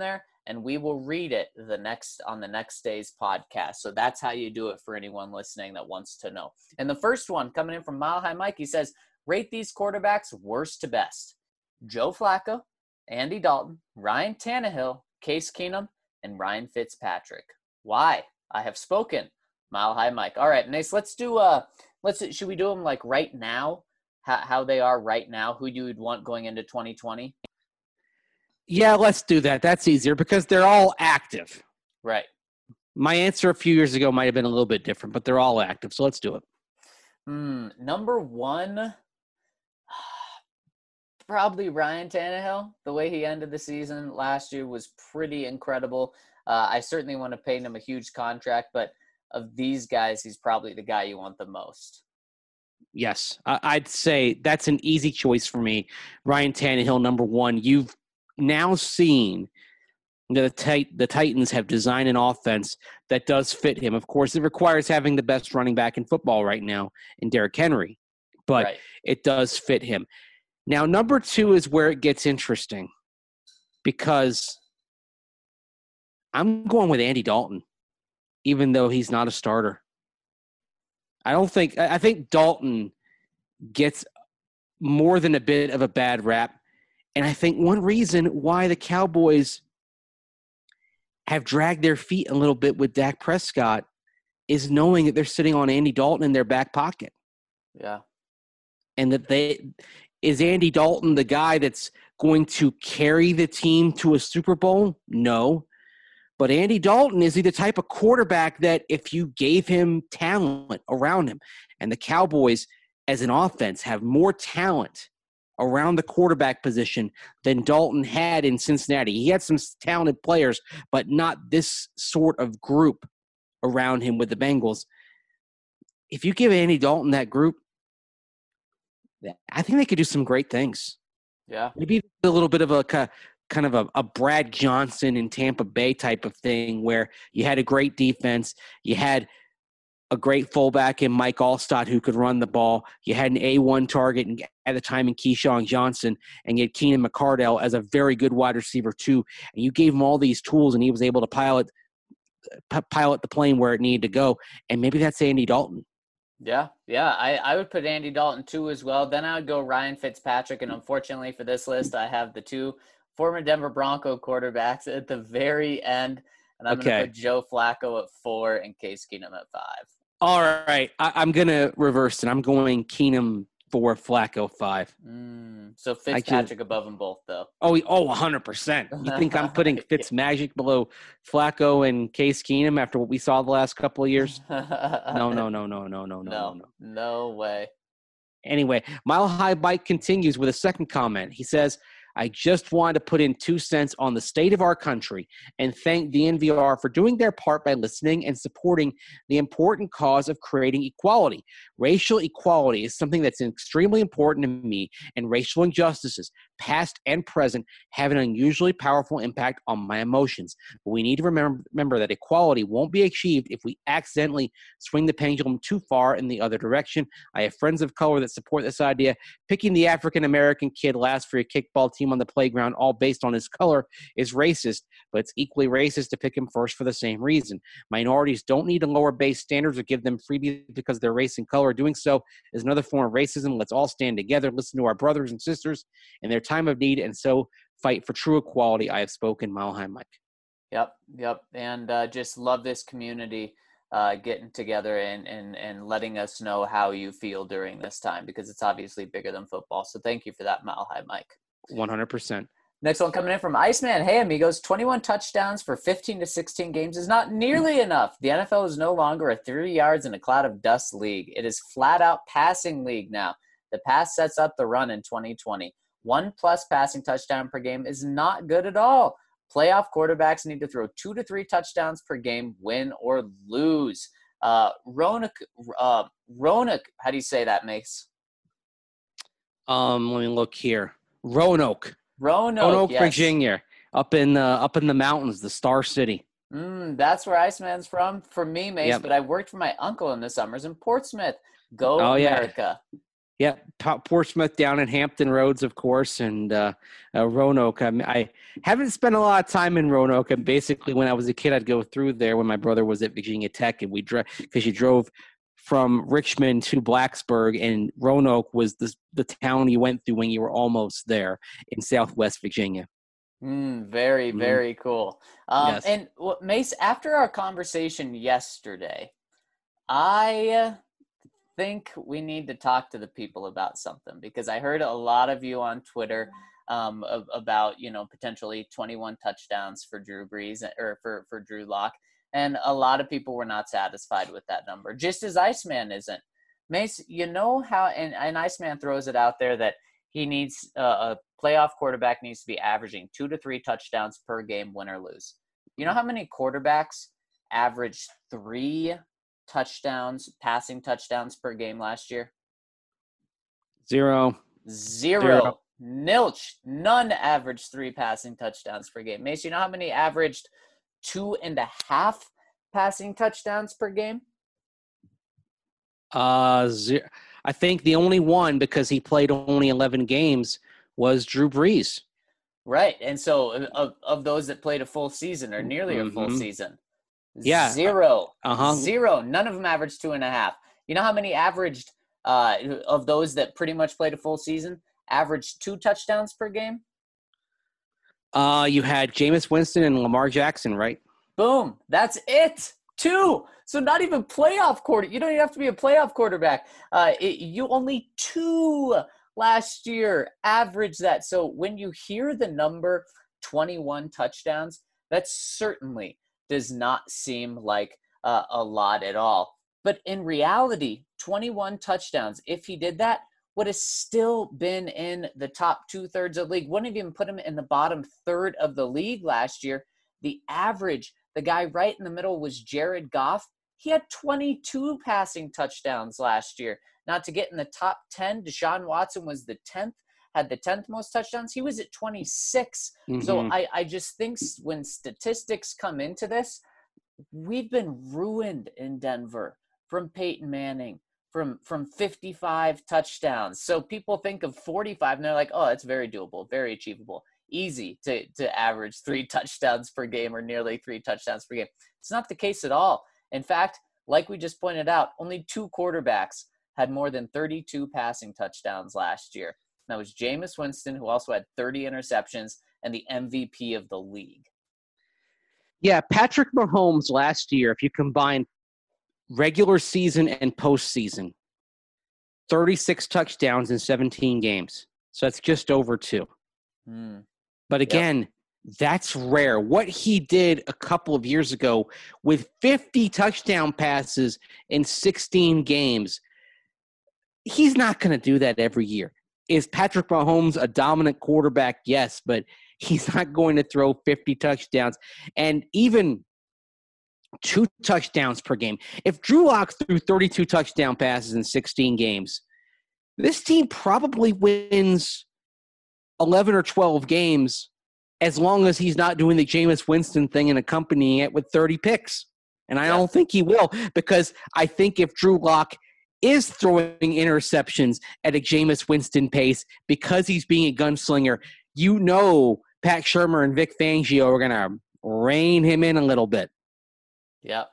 and we will read it on the next day's podcast. So that's how you do it for anyone listening that wants to know. And the first one coming in from Mile High Mike, he says, rate these quarterbacks worst to best. Joe Flacco, Andy Dalton, Ryan Tannehill, Case Keenum, and Ryan Fitzpatrick. Why? I have spoken. Mile High Mike. All right, Mace, should we do them like right now? How they are right now? Who you would want going into 2020? Yeah, let's do that. That's easier because they're all active. Right. My answer a few years ago might have been a little bit different, but they're all active. So let's do it. Number one, probably Ryan Tannehill. The way he ended the season last year was pretty incredible. I certainly want to pay him a huge contract, but of these guys, he's probably the guy you want the most. Yes, I'd say that's an easy choice for me. Ryan Tannehill, number one. You've now seen that the Titans have designed an offense that does fit him. Of course, it requires having the best running back in football right now in Derrick Henry, but It does fit him. Now, number two is where it gets interesting because I'm going with Andy Dalton, even though he's not a starter. I think Dalton gets more than a bit of a bad rap. And I think one reason why the Cowboys have dragged their feet a little bit with Dak Prescott is knowing that they're sitting on Andy Dalton in their back pocket. Yeah. And that is Andy Dalton the guy that's going to carry the team to a Super Bowl? No. But Andy Dalton is he the type of quarterback that if you gave him talent around him, and the Cowboys as an offense have more talent around the quarterback position than Dalton had in Cincinnati. He had some talented players, but not this sort of group around him with the Bengals. If you give Andy Dalton that group, I think they could do some great things. Yeah. Maybe a little bit of a kind of a Brad Johnson in Tampa Bay type of thing where you had a great defense, you had a great fullback in Mike Allstott who could run the ball, you had an A1 target at the time in Keyshawn Johnson, and you had Keenan McCardell as a very good wide receiver too, and you gave him all these tools and he was able to pilot the plane where it needed to go, and maybe that's Andy Dalton. Yeah, I would put Andy Dalton too as well. Then I would go Ryan Fitzpatrick, and unfortunately for this list, I have the two former Denver Bronco quarterbacks at the very end, and I'm going to put Joe Flacco at 4 and Case Keenum at 5. All right, I'm going to reverse it. I'm going Keenum 4, Flacco 5. So Fitzpatrick above them both, though. Oh, 100%. You think I'm putting Fitzmagic below Flacco and Case Keenum after what we saw the last couple of years? No. No way. Anyway, Mile High Bike continues with a second comment. He says, I just wanted to put in 2 cents on the state of our country and thank DNVR for doing their part by listening and supporting the important cause of creating equality. Racial equality is something that's extremely important to me, and racial injustices, past and present, have an unusually powerful impact on my emotions. But we need to remember that equality won't be achieved if we accidentally swing the pendulum too far in the other direction. I have friends of color that support this idea. Picking the African-American kid last for your kickball team on the playground, all based on his color, is racist, but it's equally racist to pick him first for the same reason. Minorities don't need to lower base standards or give them freebies because of their race and color. Doing so is another form of racism. Let's all stand together, listen to our brothers and sisters in their time of need, and so fight for true equality. I have spoken. Mile High Mike. Yep. And just love this community getting together and letting us know how you feel during this time, because it's obviously bigger than football. So thank you for that, Mile High Mike. 100%. Next one coming in from Iceman. Hey, amigos, 21 touchdowns for 15 to 16 games is not nearly enough. The NFL is no longer a 3 yards in a cloud of dust league. It is flat-out passing league now. The pass sets up the run in 2020. 1+ passing touchdown per game is not good at all. Playoff quarterbacks need to throw 2 to 3 touchdowns per game, win or lose. Roanoke, how do you say that, Mace? Let me look here. Roanoke, yes. Virginia, up in the mountains, the Star City. That's where Iceman's from. For me, Mace, But I worked for my uncle in the summers in Portsmouth. Go America. Yeah, Portsmouth down in Hampton Roads, of course, and Roanoke. I haven't spent a lot of time in Roanoke. And basically, when I was a kid, I'd go through there when my brother was at Virginia Tech, and we drove because you drove from Richmond to Blacksburg, and Roanoke was the town you went through when you were almost there in Southwest Virginia. Very, very cool. Yes. And Mace, after our conversation yesterday, I think we need to talk to the people about something, because I heard a lot of you on Twitter about, potentially 21 touchdowns for Drew Brees or for Drew Lock. And a lot of people were not satisfied with that number, just as Iceman isn't. Mace, you know how, and Iceman throws it out there that he needs a playoff quarterback needs to be averaging 2 to 3 touchdowns per game, win or lose. You know how many quarterbacks averaged 3 passing touchdowns per game last year? Zero. Nilch. None averaged 3 passing touchdowns per game. Mace, you know how many averaged 2.5 passing touchdowns per game? Zero. I think the only one, because he played only 11 games, was Drew Brees. Right. And so of those that played a full season or nearly a full season, yeah, zero. None of them averaged 2.5. You know how many averaged of those that pretty much played a full season averaged 2 touchdowns per game? You had Jameis Winston and Lamar Jackson, right? Boom. That's it. 2. So not even playoff quarter. You don't even have to be a playoff quarterback. You only 2 last year averaged that. So when you hear the number 21 touchdowns, that certainly does not seem like a lot at all. But in reality, 21 touchdowns, if he did that, would have still been in the top 2/3 of the league. Wouldn't have even put him in the bottom third of the league last year. The average, the guy right in the middle was Jared Goff. He had 22 passing touchdowns last year. Not to get in the top 10, Deshaun Watson was the 10th, had the 10th most touchdowns. He was at 26. So I just think when statistics come into this, we've been ruined in Denver from Peyton Manning, from 55 touchdowns. So people think of 45 and they're like, oh, it's very doable, very achievable, easy to average 3 touchdowns per game or nearly 3 touchdowns per game. It's not the case at all. In fact, like we just pointed out, only 2 quarterbacks had more than 32 passing touchdowns last year. That was Jameis Winston, who also had 30 interceptions and the MVP of the league. Yeah, Patrick Mahomes last year, if you combine regular season and postseason, 36 touchdowns in 17 games. So that's just over 2. But again, that's rare. What he did a couple of years ago with 50 touchdown passes in 16 games, he's not going to do that every year. Is Patrick Mahomes a dominant quarterback? Yes, but he's not going to throw 50 touchdowns and even 2 touchdowns per game. If Drew Lock threw 32 touchdown passes in 16 games, this team probably wins 11 or 12 games, as long as he's not doing the Jameis Winston thing and accompanying it with 30 picks. And I don't think he will, because I think if Drew Lock is throwing interceptions at a Jameis Winston pace because he's being a gunslinger, Pat Shurmur and Vic Fangio are going to rein him in a little bit. Yep.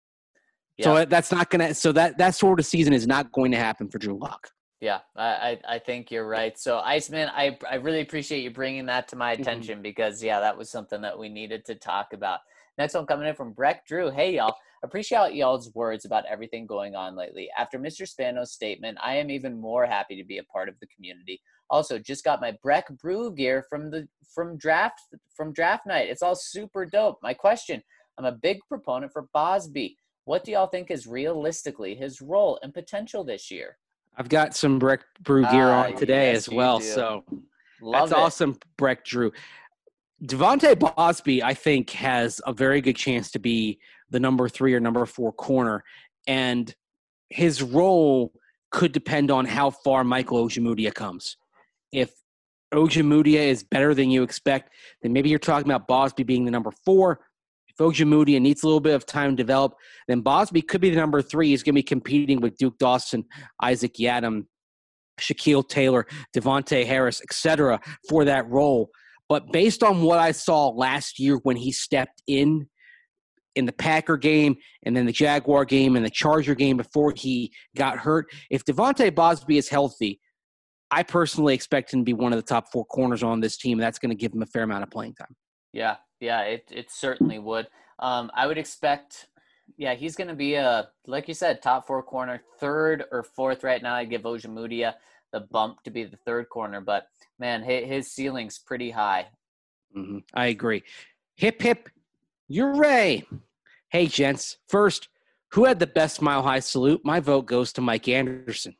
So that's not going to – so that sort of season is not going to happen for Drew Lock. Yeah, I think you're right. So, Iceman, I really appreciate you bringing that to my attention because, that was something that we needed to talk about. Next one coming in from Breck Drew. Hey, y'all. Appreciate y'all's words about everything going on lately. After Mr. Spano's statement, I am even more happy to be a part of the community. Also, just got my Breck Brew gear from draft night. It's all super dope. My question, I'm a big proponent for Bosby. What do y'all think is realistically his role and potential this year? I've got some Breck Brew gear on today as well, so that's awesome, Breck Drew. Devontae Bosby, I think, has a very good chance to be the number 3 or number 4 corner, and his role could depend on how far Michael Ojemudia comes. If Ojemudia is better than you expect, then maybe you're talking about Bosby being the number 4. If Ojemudia needs a little bit of time to develop, then Bosby could be the number 3. He's going to be competing with Duke Dawson, Isaac Yiadom, Shaquille Taylor, Devontae Harris, etc., for that role. But based on what I saw last year when he stepped in the Packer game and then the Jaguar game and the Charger game before he got hurt, if Devontae Bosby is healthy, I personally expect him to be one of the top 4 corners on this team. That's going to give him a fair amount of playing time. Yeah, it certainly would. I would expect, he's going to be like you said, top 4 corner, 3rd or 4th right now. I give Ojemudia the bump to be the 3rd corner, but man, his ceiling's pretty high. Mm-hmm. I agree. Hip, hip, hooray. Hey, gents. First, who had the best Mile High salute? My vote goes to Mike Anderson.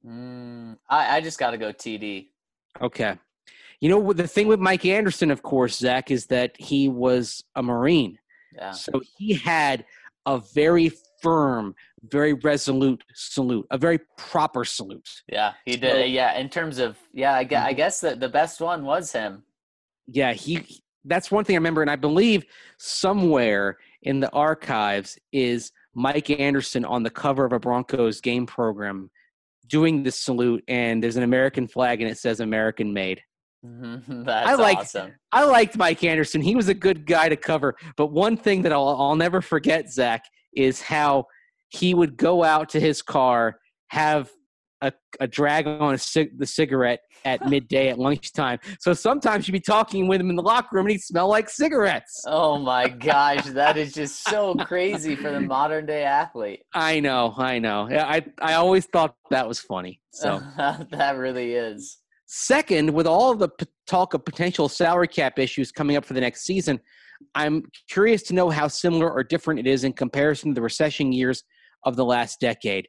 I just got to go TD. Okay. You know, the thing with Mike Anderson, of course, Zach, is that he was a Marine. Yeah. So he had a very firm, very resolute salute, a very proper salute. Yeah, he did. Yeah, in terms of, I guess that the best one was him. Yeah, that's one thing I remember, and I believe somewhere in the archives is Mike Anderson on the cover of a Broncos game program doing the salute, and there's an American flag, and it says American made. That's awesome. I liked Mike Anderson. He was a good guy to cover. But one thing that I'll never forget, Zach, is how he would go out to his car, have a drag on the cigarette at midday at lunchtime. So sometimes you'd be talking with him in the locker room and he'd smell like cigarettes. Oh my gosh, that is just so crazy for the modern day athlete. I know. I always thought that was funny. So that really is. Second, with all of the talk of potential salary cap issues coming up for the next season, I'm curious to know how similar or different it is in comparison to the recession years of the last decade.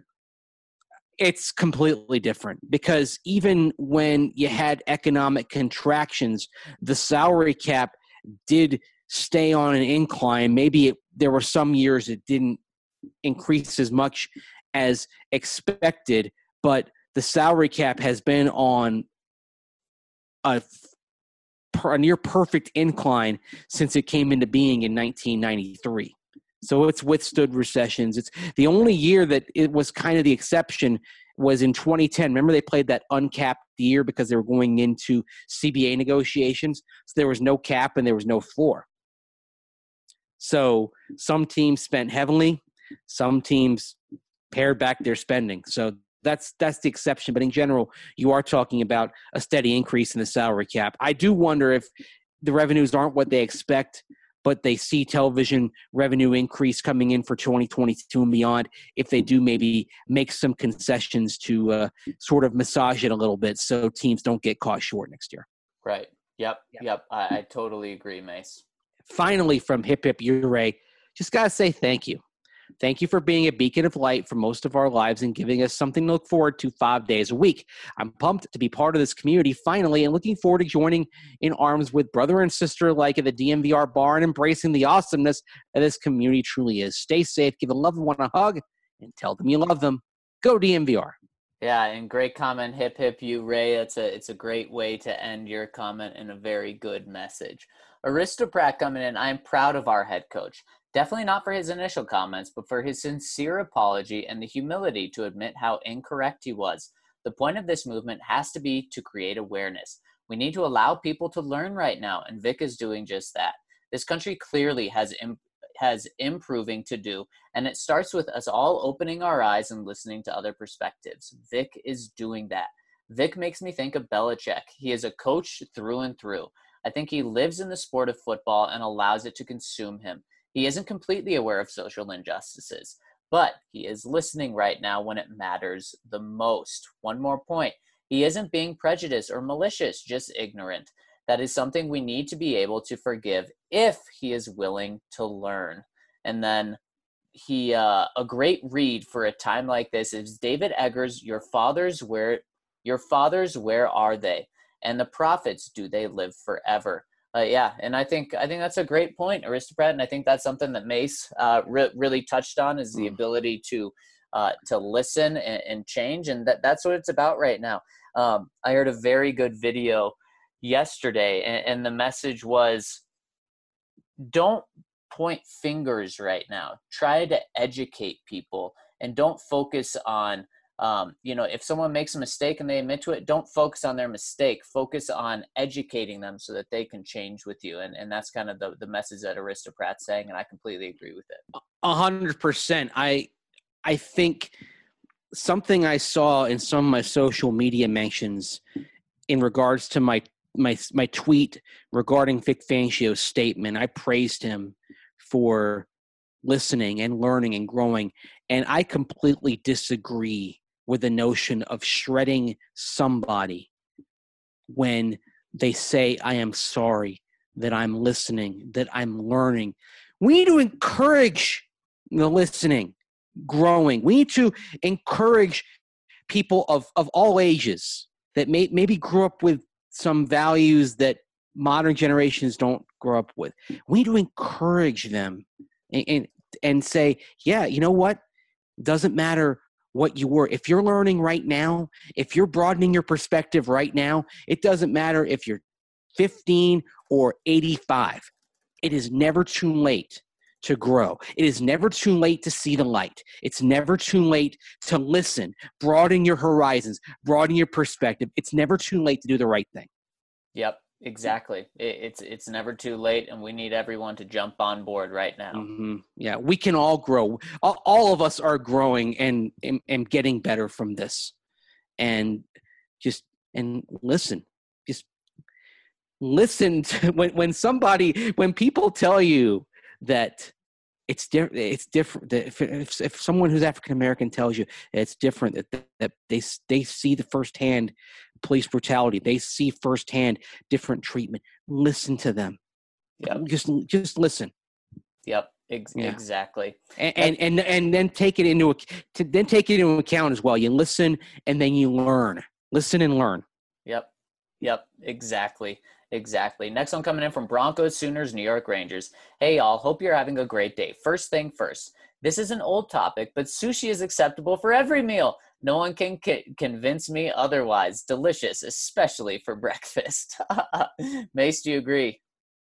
It's completely different because even when you had economic contractions, the salary cap did stay on an incline. Maybe there were some years it didn't increase as much as expected, but the salary cap has been on a near perfect incline since it came into being in 1993. So it's withstood recessions. It's the only year that it was kind of the exception was in 2010. Remember they played that uncapped year because they were going into CBA negotiations. So there was no cap and there was no floor. So some teams spent heavily. Some teams pared back their spending. So that's the exception. But in general, you are talking about a steady increase in the salary cap. I do wonder if the revenues aren't what they expect, but they see television revenue increase coming in for 2022 and beyond, if they do maybe make some concessions to sort of massage it a little bit so teams don't get caught short next year. Right. Yep. I totally agree, Mace. Finally, from Hip Hip Hooray, just got to say thank you. Thank you for being a beacon of light for most of our lives and giving us something to look forward to 5 days a week. I'm pumped to be part of this community finally and looking forward to joining in arms with brother and sister alike at the DMVR bar and embracing the awesomeness that this community truly is. Stay safe, give a loved one a hug, and tell them you love them. Go DMVR. Yeah, and great comment, Hip Hip Hooray. It's a great way to end your comment and a very good message. Aristocrat coming in, I'm proud of our head coach. Definitely not for his initial comments, but for his sincere apology and the humility to admit how incorrect he was. The point of this movement has to be to create awareness. We need to allow people to learn right now, and Vic is doing just that. This country clearly has improving to do, and it starts with us all opening our eyes and listening to other perspectives. Vic is doing that. Vic makes me think of Belichick. He is a coach through and through. I think he lives in the sport of football and allows it to consume him. He isn't completely aware of social injustices, but he is listening right now when it matters the most. One more point. He isn't being prejudiced or malicious, just ignorant. That is something we need to be able to forgive if he is willing to learn. And then a great read for a time like this is David Eggers, Your fathers, where are they? And the prophets, do they live forever? And I think that's a great point, Aristocrat, and I think that's something that Mace really touched on is the ability to listen and change, and that's what it's about right now. I heard a very good video yesterday, and the message was, don't point fingers right now. Try to educate people, and don't focus on If someone makes a mistake and they admit to it, don't focus on their mistake. Focus on educating them so that they can change with you. And that's kind of the message that Aristocrat's saying, and I completely agree with it. 100%. I think something I saw in some of my social media mentions in regards to my tweet regarding Vic Fangio's statement, I praised him for listening and learning and growing. And I completely disagree with the notion of shredding somebody when they say, I am sorry, that I'm listening, that I'm learning. We need to encourage the listening, growing. We need to encourage people of all ages that maybe grew up with some values that modern generations don't grow up with. We need to encourage them and say, yeah, you know what? Doesn't matter what you were. If you're learning right now, if you're broadening your perspective right now, it doesn't matter if you're 15 or 85. It is never too late to grow. It is never too late to see the light. It's never too late to listen, broaden your horizons, broaden your perspective. It's never too late to do the right thing. Yep, exactly. It's never too late, and we need everyone to jump on board right now. Mm-hmm. Yeah, we can all grow. All of us are growing and getting better from this. And listen. Just listen to when people tell you that it's different. If someone who's African American tells you it's different, that they see the firsthand police brutality, they see firsthand different treatment. Listen to them. Yep. Just listen. Yep. Exactly. And then take it into account as well. You listen and then you learn. Listen and learn. Yep. Exactly. Next one coming in from Broncos, Sooners, New York Rangers. Hey, y'all. Hope you're having a great day. First thing first. This is an old topic, but sushi is acceptable for every meal. No one can convince me otherwise. Delicious, especially for breakfast. Mace, do you agree?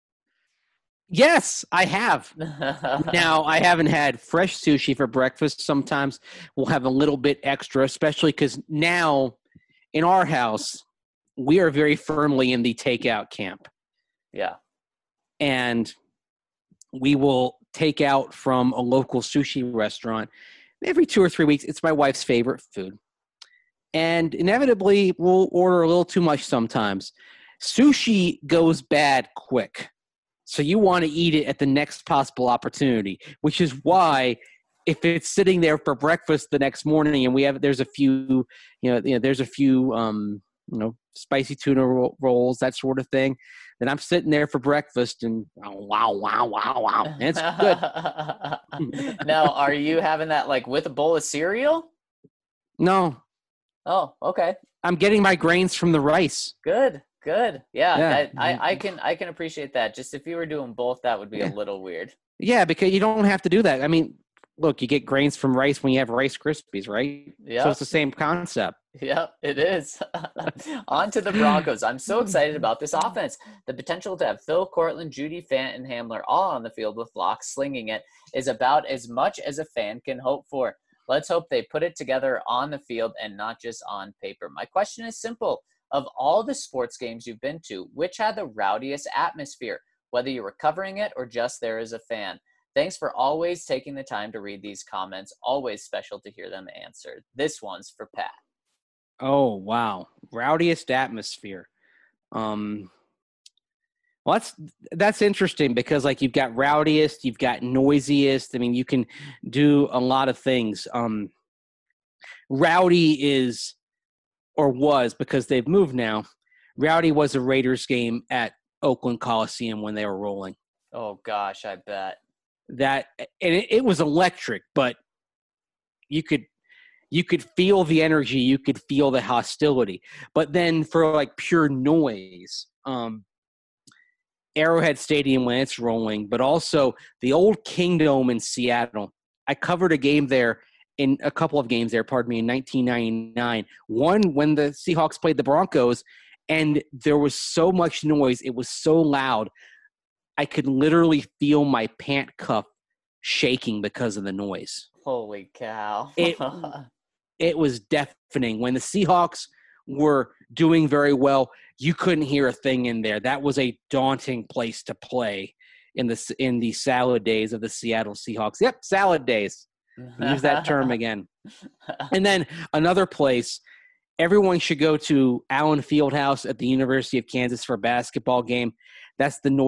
Yes, I have. Now, I haven't had fresh sushi for breakfast. Sometimes we'll have a little bit extra, especially because now in our house, we are very firmly in the takeout camp. Yeah. And we will take out from a local sushi restaurant every 2 or 3 weeks. It's my wife's favorite food. And inevitably, we'll order a little too much sometimes. Sushi goes bad quick. So you want to eat it at the next possible opportunity, which is why if it's sitting there for breakfast the next morning and there's a few spicy tuna rolls, that sort of thing, then I'm sitting there for breakfast and wow. And it's good. Now, are you having that like with a bowl of cereal? No. Oh, okay. I'm getting my grains from the rice. Good. Yeah. I can appreciate that. Just if you were doing both, that would be a little weird. Yeah, because you don't have to do that. I mean, look, you get grains from rice when you have Rice Krispies, right? Yeah. So it's the same concept. Yeah, it is. On to the Broncos. I'm so excited about this offense. The potential to have Phil, Cortland, Judy, Fant, and Hamler all on the field with Locke slinging it is about as much as a fan can hope for. Let's hope they put it together on the field and not just on paper. My question is simple. Of all the sports games you've been to, which had the rowdiest atmosphere, whether you were covering it or just there as a fan? Thanks for always taking the time to read these comments. Always special to hear them answered. This one's for Pat. Oh, wow. Rowdiest atmosphere. Well, that's interesting because like you've got rowdiest, you've got noisiest. I mean, you can do a lot of things. Rowdy is, or was, because they've moved now, rowdy was a Raiders game at Oakland Coliseum when they were rolling. Oh, gosh, I bet. And it was electric, but you could feel the energy, you could feel the hostility. But then for like pure noise, Arrowhead Stadium when it's rolling, but also the old Kingdome in Seattle. I covered a couple of games there, in 1999. One when the Seahawks played the Broncos, and there was so much noise. It was so loud. I could literally feel my pant cuff shaking because of the noise. Holy cow. it was deafening. When the Seahawks were doing very well, you couldn't hear a thing in there. That was a daunting place to play in the salad days of the Seattle Seahawks. Yep, salad days. Use that term again. And then another place, everyone should go to Allen Fieldhouse at the University of Kansas for a basketball game. That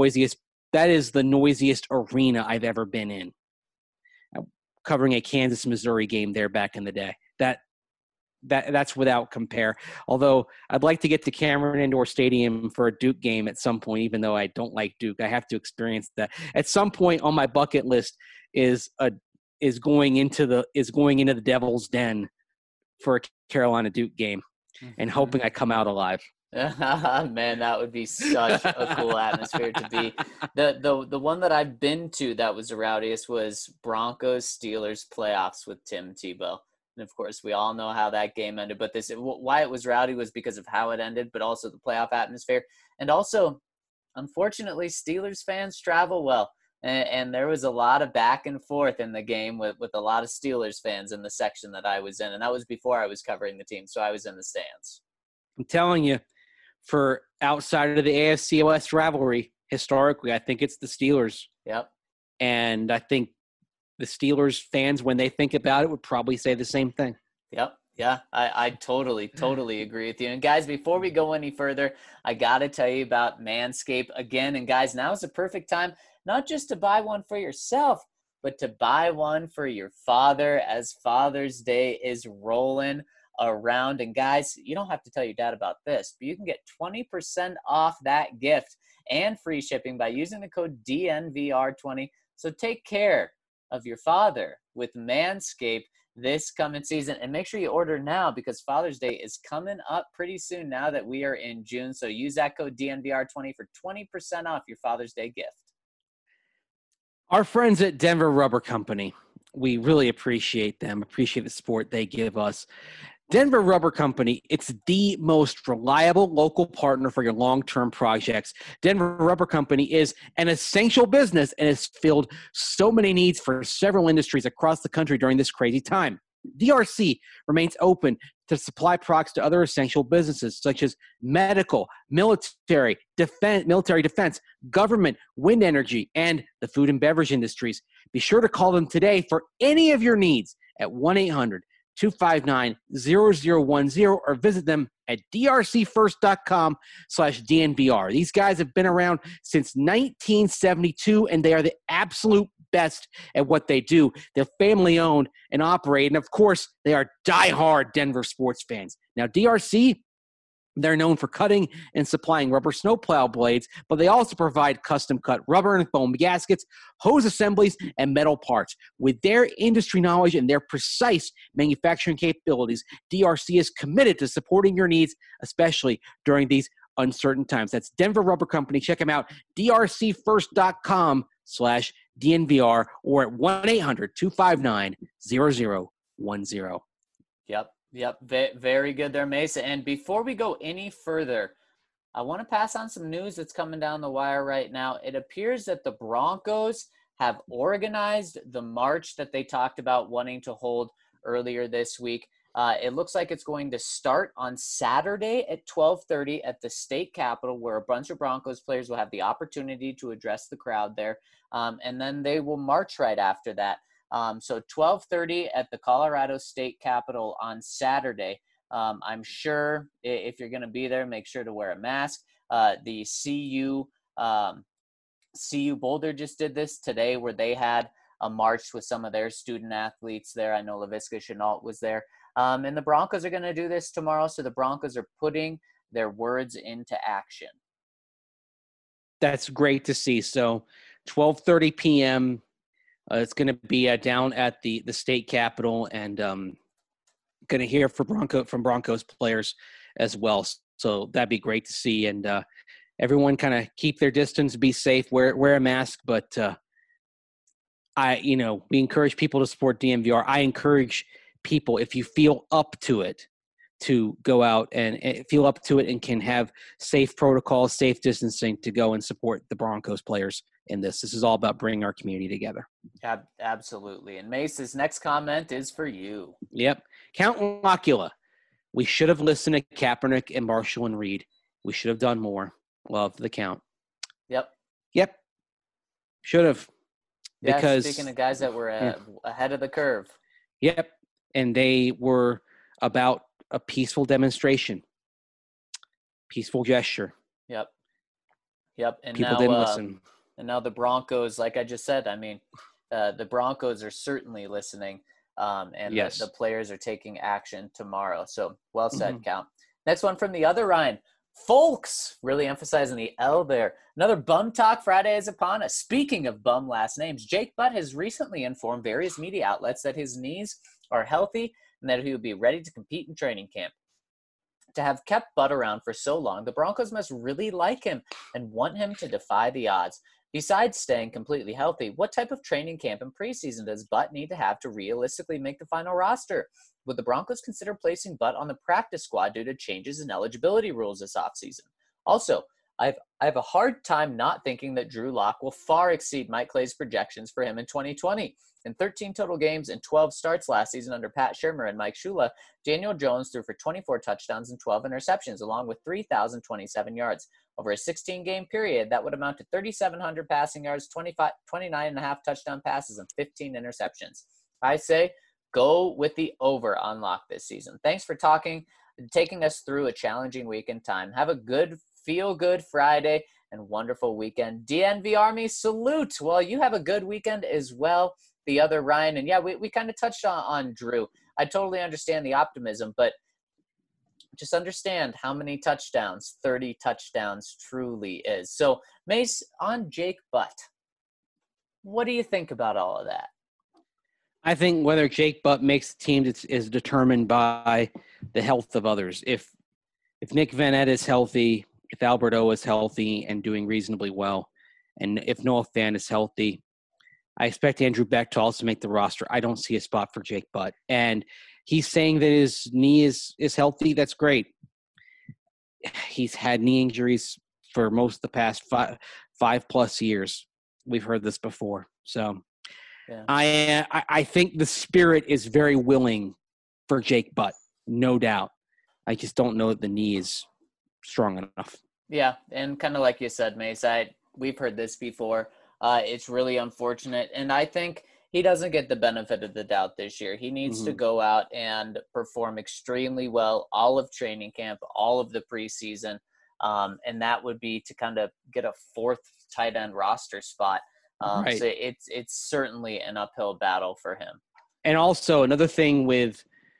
is the noisiest arena I've ever been in. Covering a Kansas-Missouri game there back in the day. That's without compare. Although I'd like to get to Cameron Indoor Stadium for a Duke game at some point, even though I don't like Duke. I have to experience that. At some point on my bucket list is going into the Devil's Den for a Carolina Duke game and hoping I come out alive. Man, that would be such a cool atmosphere to be. The one that I've been to that was the rowdiest was Broncos Steelers playoffs with Tim Tebow. And of course, we all know how that game ended, but why it was rowdy was because of how it ended, but also the playoff atmosphere. And also, unfortunately, Steelers fans travel well. And there was a lot of back and forth in the game with a lot of Steelers fans in the section that I was in. And that was before I was covering the team, so I was in the stands. I'm telling you, for outside of the AFC West rivalry, historically, I think it's the Steelers. Yep. And I think the Steelers fans, when they think about it, would probably say the same thing. Yep. Yeah, I totally agree with you. And guys, before we go any further, I got to tell you about Manscaped again. And guys, now is the perfect time, not just to buy one for yourself, but to buy one for your father as Father's Day is rolling around. And guys, you don't have to tell your dad about this, but you can get 20% off that gift and free shipping by using the code DNVR20. So take care of your father with Manscaped this coming season, and make sure you order now because Father's Day is coming up pretty soon now that we are in June. So use that code DNVR20 for 20% off your Father's Day gift. Our friends at Denver Rubber Company, we really appreciate them, appreciate the support they give us. Denver Rubber Company, it's the most reliable local partner for your long-term projects. Denver Rubber Company is an essential business and has filled so many needs for several industries across the country during this crazy time. DRC remains open to supply products to other essential businesses such as medical, military defense, government, wind energy, and the food and beverage industries. Be sure to call them today for any of your needs at 1-800-259-0010 or visit them at drcfirst.com/DNVR. These guys have been around since 1972, and they are the absolute best at what they do. They're family-owned and operated, and of course, they are diehard Denver sports fans. Now, DRC, they're known for cutting and supplying rubber snowplow blades, but they also provide custom-cut rubber and foam gaskets, hose assemblies, and metal parts. With their industry knowledge and their precise manufacturing capabilities, DRC is committed to supporting your needs, especially during these uncertain times. That's Denver Rubber Company. Check them out, drcfirst.com/DNVR or at 1-800-259-0010. Yep. Very good there, Mesa. And before we go any further, I want to pass on some news that's coming down the wire right now. It appears that the Broncos have organized the march that they talked about wanting to hold earlier this week. It looks like it's going to start on Saturday at 12:30 at the state capitol, where a bunch of Broncos players will have the opportunity to address the crowd there. And then they will march right after that. So 12:30 at the Colorado State Capitol on Saturday. I'm sure if you're going to be there, make sure to wear a mask. The CU Boulder just did this today, where they had a march with some of their student athletes there. I know Laviska Shenault was there. And the Broncos are going to do this tomorrow. So the Broncos are putting their words into action. That's great to see. So 12:30 p.m., it's going to be down at the state capitol, and going to hear from Broncos players as well. So that'd be great to see. And everyone kind of keep their distance, be safe, wear a mask. But we encourage people to support DNVR. I encourage people, if you feel up to it, to go out and feel up to it and can have safe protocols, safe distancing, to go and support the Broncos players in this. This is all about bringing our community together. Absolutely. And Mace's next comment is for you. Yep. Count Locula. We should have listened to Kaepernick and Marshall and Reed. We should have done more. Love the count. Yep. Should have. Yeah, Because speaking of guys that were ahead of the curve. Yep. And they were about a peaceful demonstration. Peaceful gesture. Yep. And People now, didn't listen. And now the Broncos, like I just said, I mean, the Broncos are certainly listening. And Yes. the players are taking action tomorrow. So well said, Count. Next one from the other Ryan. Folks, really emphasizing the L there. Another Bum Talk Friday is upon us. Speaking of bum last names, Jake Butt has recently informed various media outlets that his knees are healthy and that he will be ready to compete in training camp. To have kept Butt around for so long, the Broncos must really like him and want him to defy the odds. Besides staying completely healthy, what type of training camp and preseason does Butt need to have to realistically make the final roster? Would the Broncos consider placing Butt on the practice squad due to changes in eligibility rules this offseason? Also, I have a hard time not thinking that Drew Lock will far exceed Mike Clay's projections for him in 2020. In 13 total games and 12 starts last season under Pat Shurmur and Mike Shula, Daniel Jones threw for 24 touchdowns and 12 interceptions, along with 3,027 yards. Over a 16-game period, that would amount to 3,700 passing yards, 29.5 touchdown passes, and 15 interceptions. I say go with the over on Lock this season. Thanks for taking us through a challenging week in time. Have a good, feel-good Friday and wonderful weekend. DNV Army, salute. Well, you have a good weekend as well. The other Ryan, and yeah, we kind of touched on Drew. I totally understand the optimism, but just understand how many touchdowns 30 touchdowns truly is. So, Mace, on Jake Butt, what do you think about all of that? I think whether Jake Butt makes the team is determined by the health of others. If Nick Van Ed is healthy, if Alberto is healthy and doing reasonably well, and if Noah Fant is healthy, I expect Andrew Beck to also make the roster. I don't see a spot for Jake Butt. And he's saying that his knee is healthy. That's great. He's had knee injuries for most of the past five plus years. We've heard this before. So yeah. I think the spirit is very willing for Jake Butt, no doubt. I just don't know that the knee is strong enough. Yeah, and kind of like you said, Mace, we've heard this before. It's really unfortunate, and I think he doesn't get the benefit of the doubt this year. He needs to go out and perform extremely well all of training camp, all of the preseason, and that would be to kind of get a fourth tight end roster spot. Right. So it's certainly an uphill battle for him. And also another thing with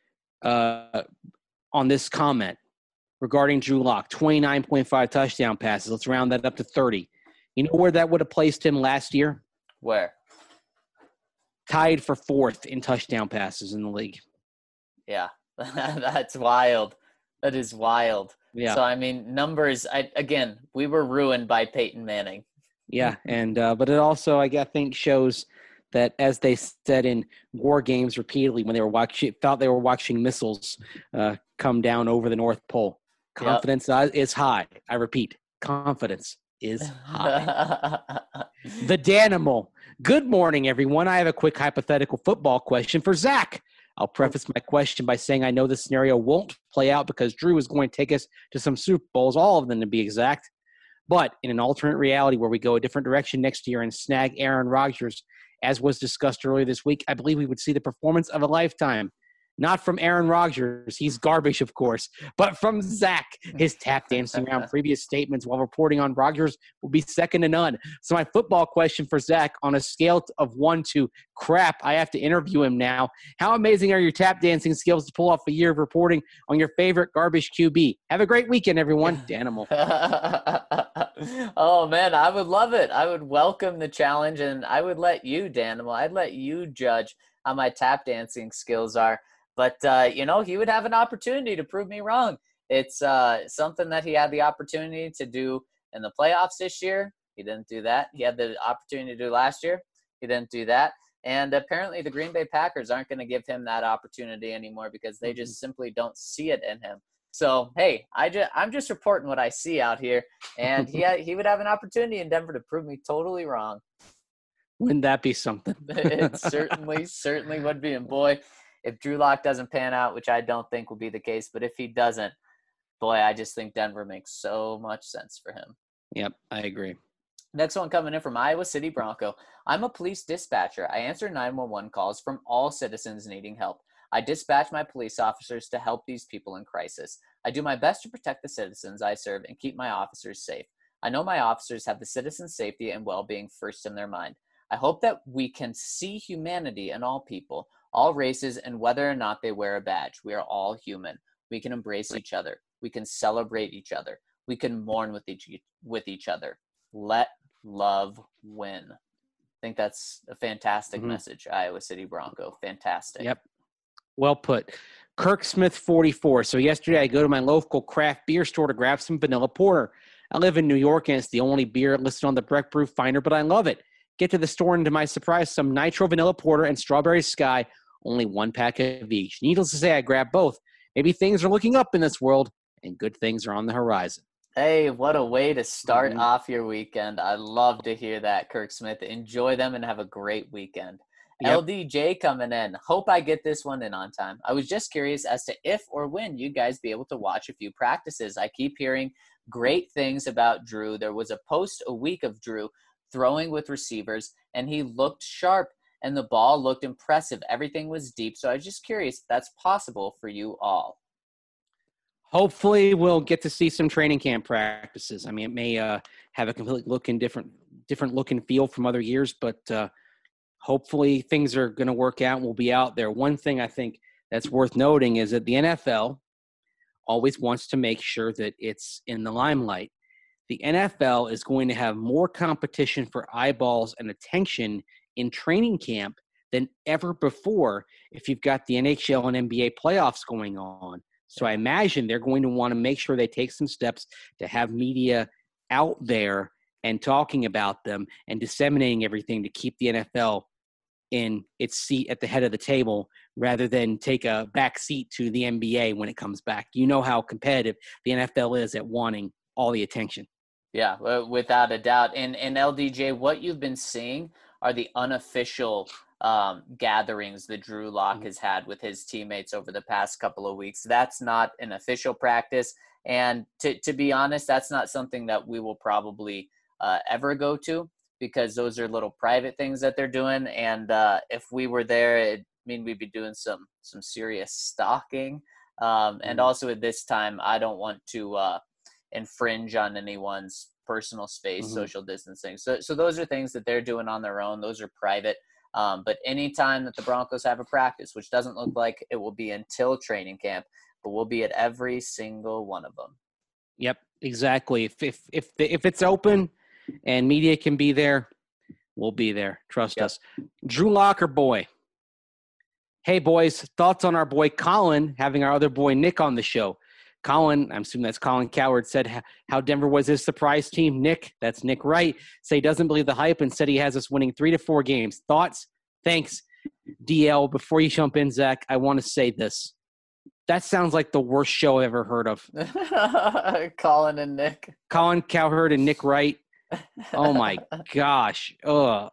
on this comment regarding Drew Lock, 29.5 touchdown passes. Let's round that up to 30. You know where that would have placed him last year? Where? Tied for fourth in touchdown passes in the league. Yeah, that's wild. That is wild. Yeah. So, I mean, numbers, again, we were ruined by Peyton Manning. Yeah, and but it also, I think, shows that, as they said in war games repeatedly when they were thought they were watching missiles come down over the North Pole, confidence is high. I repeat, confidence is high. The Danimal. Good morning, everyone. I have a quick hypothetical football question for Zach. I'll preface my question by saying I know this scenario won't play out because Drew is going to take us to some Super Bowls, all of them to be exact. But in an alternate reality where we go a different direction next year and snag Aaron Rodgers, as was discussed earlier this week, I believe we would see the performance of a lifetime. Not from Aaron Rodgers, he's garbage, of course, but from Zach. His tap dancing around previous statements while reporting on Rodgers will be second to none. So my football question for Zach, on a scale of 1 to crap, I have to interview him now. How amazing are your tap dancing skills to pull off a year of reporting on your favorite garbage QB? Have a great weekend, everyone. Danimal. Oh, man, I would love it. I would welcome the challenge, and I would let you, Danimal, I'd let you judge how my tap dancing skills are. But, he would have an opportunity to prove me wrong. It's something that he had the opportunity to do in the playoffs this year. He didn't do that. He had the opportunity to do last year. He didn't do that. And apparently the Green Bay Packers aren't going to give him that opportunity anymore because they just simply don't see it in him. So, hey, I'm just reporting what I see out here. And he would have an opportunity in Denver to prove me totally wrong. Wouldn't that be something? It certainly would be. And, boy, if Drew Lock doesn't pan out, which I don't think will be the case, but if he doesn't, boy, I just think Denver makes so much sense for him. Yep, I agree. Next one coming in from Iowa City Bronco. I'm a police dispatcher. I answer 911 calls from all citizens needing help. I dispatch my police officers to help these people in crisis. I do my best to protect the citizens I serve and keep my officers safe. I know my officers have the citizens' safety and well-being first in their mind. I hope that we can see humanity in all people, all races, and whether or not they wear a badge. We are all human. We can embrace each other. We can celebrate each other. We can mourn with each other. Let love win. I think that's a fantastic message, Iowa City Bronco. Fantastic. Yep. Well put. Kirk Smith 44. So yesterday I go to my local craft beer store to grab some vanilla porter. I live in New York and it's the only beer listed on the Breck Brew Finder, but I love it. Get to the store and to my surprise, some nitro vanilla porter and strawberry sky, only 1 pack of each. Needless to say, I grabbed both. Maybe things are looking up in this world and good things are on the horizon. Hey, what a way to start off your weekend. I love to hear that, Kirk Smith. Enjoy them and have a great weekend. Yep. LDJ coming in. Hope I get this one in on time. I was just curious as to if or when you guys be able to watch a few practices. I keep hearing great things about Drew. There was a post a week of Drew throwing with receivers, and he looked sharp, and the ball looked impressive. Everything was deep. So I was just curious if that's possible for you all. Hopefully we'll get to see some training camp practices. I mean, it may have a completely different look and feel from other years, but hopefully things are going to work out and we'll be out there. One thing I think that's worth noting is that the NFL always wants to make sure that it's in the limelight. The NFL is going to have more competition for eyeballs and attention in training camp than ever before if you've got the NHL and NBA playoffs going on. So I imagine they're going to want to make sure they take some steps to have media out there and talking about them and disseminating everything to keep the NFL in its seat at the head of the table rather than take a back seat to the NBA when it comes back. You know how competitive the NFL is at wanting all the attention. Yeah, without a doubt. And LDJ, what you've been seeing are the unofficial gatherings that Drew Lock has had with his teammates over the past couple of weeks. That's not an official practice. And to be honest, that's not something that we will probably ever go to because those are little private things that they're doing. And if we were there, it'd mean we'd be doing some serious stalking. And also at this time, I don't want to infringe on anyone's personal space, social distancing. So those are things that they're doing on their own. Those are private. But anytime that the Broncos have a practice, which doesn't look like it will be until training camp, but we'll be at every single one of them. Yep, exactly. If it's open and media can be there, we'll be there. Trust us. Drew Lock or boy? Hey, boys, thoughts on our boy Colin having our other boy Nick on the show? Colin, I'm assuming that's Colin Cowherd, said how Denver was his surprise team. Nick, that's Nick Wright, say he doesn't believe the hype and said he has us winning 3 to 4 games. Thoughts? Thanks, DL. Before you jump in, Zach, I want to say this. That sounds like the worst show I've ever heard of. Colin and Nick. Colin Cowherd and Nick Wright. Oh, my gosh. I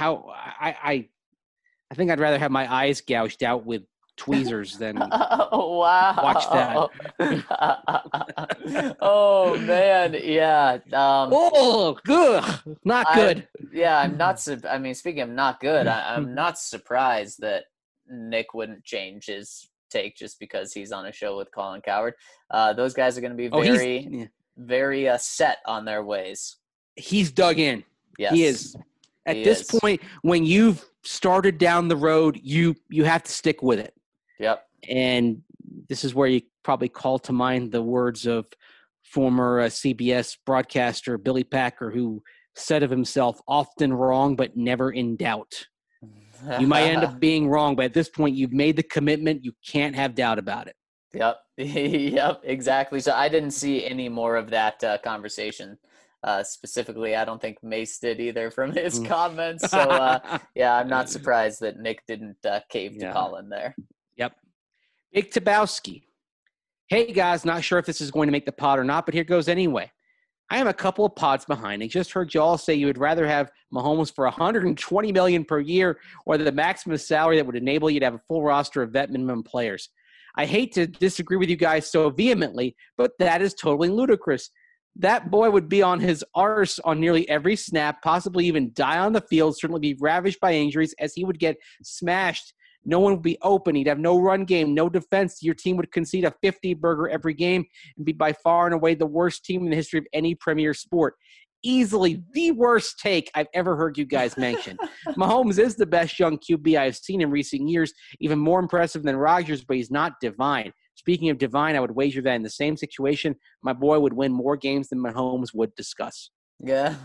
think I'd rather have my eyes gouged out with tweezers than watch that. Oh man, yeah. Good, not good. I'm not. Speaking of not good, I'm not surprised that Nick wouldn't change his take just because he's on a show with Colin Cowherd. Those guys are going to be very set on their ways. He's dug in. Yes, he is. At this point, when you've started down the road, you have to stick with it. Yep. And this is where you probably call to mind the words of former CBS broadcaster Billy Packer, who said of himself, often wrong, but never in doubt. You might end up being wrong, but at this point, you've made the commitment. You can't have doubt about it. Yep. Yep, exactly. So I didn't see any more of that conversation. Specifically, I don't think Mace did either from his comments. So, I'm not surprised that Nick didn't cave to Colin there. Yep. Big Tabowski. Hey, guys, not sure if this is going to make the pod or not, but here goes anyway. I am a couple of pods behind. I just heard you all say you would rather have Mahomes for $120 million per year or the maximum salary that would enable you to have a full roster of vet minimum players. I hate to disagree with you guys so vehemently, but that is totally ludicrous. That boy would be on his arse on nearly every snap, possibly even die on the field, certainly be ravaged by injuries as he would get smashed. No one would be open. He'd have no run game, no defense. Your team would concede a 50-burger every game and be by far and away the worst team in the history of any premier sport. Easily the worst take I've ever heard you guys mention. Mahomes is the best young QB I've seen in recent years, even more impressive than Rodgers, but he's not divine. Speaking of divine, I would wager that in the same situation, my boy would win more games than Mahomes would discuss. Yeah.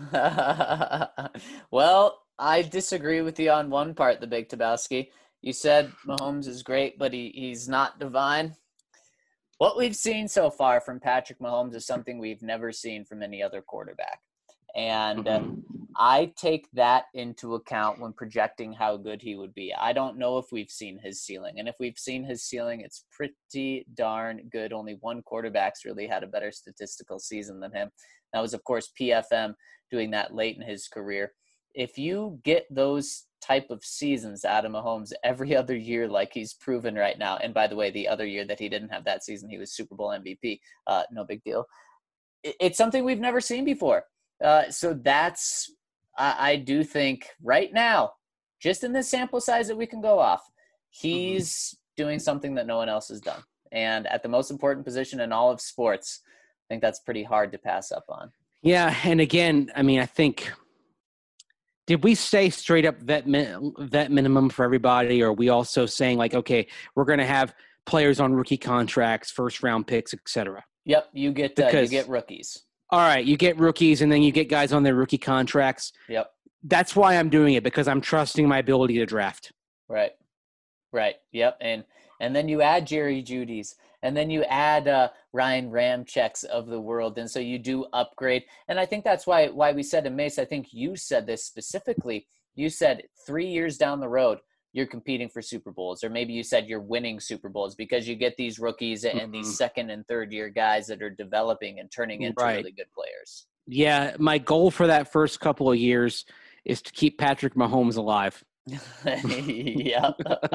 Well, I disagree with you on one part, the Big Tabowski. You said Mahomes is great, but he's not divine. What we've seen so far from Patrick Mahomes is something we've never seen from any other quarterback. And I take that into account when projecting how good he would be. I don't know if we've seen his ceiling. And if we've seen his ceiling, it's pretty darn good. Only one quarterback's really had a better statistical season than him. That was, of course, PFM doing that late in his career. If you get those type of seasons out of Mahomes every other year like he's proven right now, and by the way, the other year that he didn't have that season, he was Super Bowl MVP. No big deal. It's something we've never seen before. So that's, I do think right now, just in this sample size that we can go off, he's doing something that no one else has done. And at the most important position in all of sports, I think that's pretty hard to pass up on. Yeah, and again, I mean, I think – did we say straight up vet minimum for everybody, or are we also saying like, okay, we're going to have players on rookie contracts, first round picks, et cetera? Yep, you get rookies. All right, you get rookies, and then you get guys on their rookie contracts. Yep. That's why I'm doing it, because I'm trusting my ability to draft. Right. Yep. And then you add Jerry Jeudy's, and then you add Ryan Ramczyks of the world. And so you do upgrade. And I think that's why we said, and Mace, I think you said this specifically. You said 3 years down the road, you're competing for Super Bowls, or maybe you said you're winning Super Bowls because you get these rookies and these second and third year guys that are developing and turning into really good players. Yeah. My goal for that first couple of years is to keep Patrick Mahomes alive. Yeah.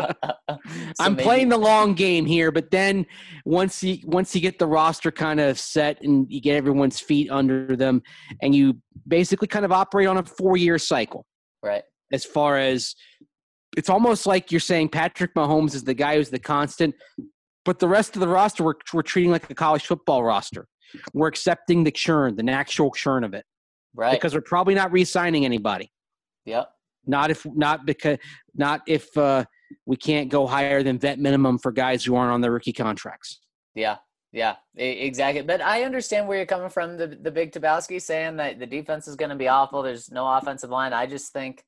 I'm playing the long game here, but then once you get the roster kind of set and you get everyone's feet under them, and you basically kind of operate on a 4-year cycle. Right. As far as it's almost like you're saying Patrick Mahomes is the guy who's the constant, but the rest of the roster we're treating like a college football roster. We're accepting the churn, the natural churn of it. Right. Because we're probably not re-signing anybody. Yep. Not if we can't go higher than vet minimum for guys who aren't on their rookie contracts. Yeah, exactly. But I understand where you're coming from, the Big Tabowski, saying that the defense is going to be awful. There's no offensive line. I just think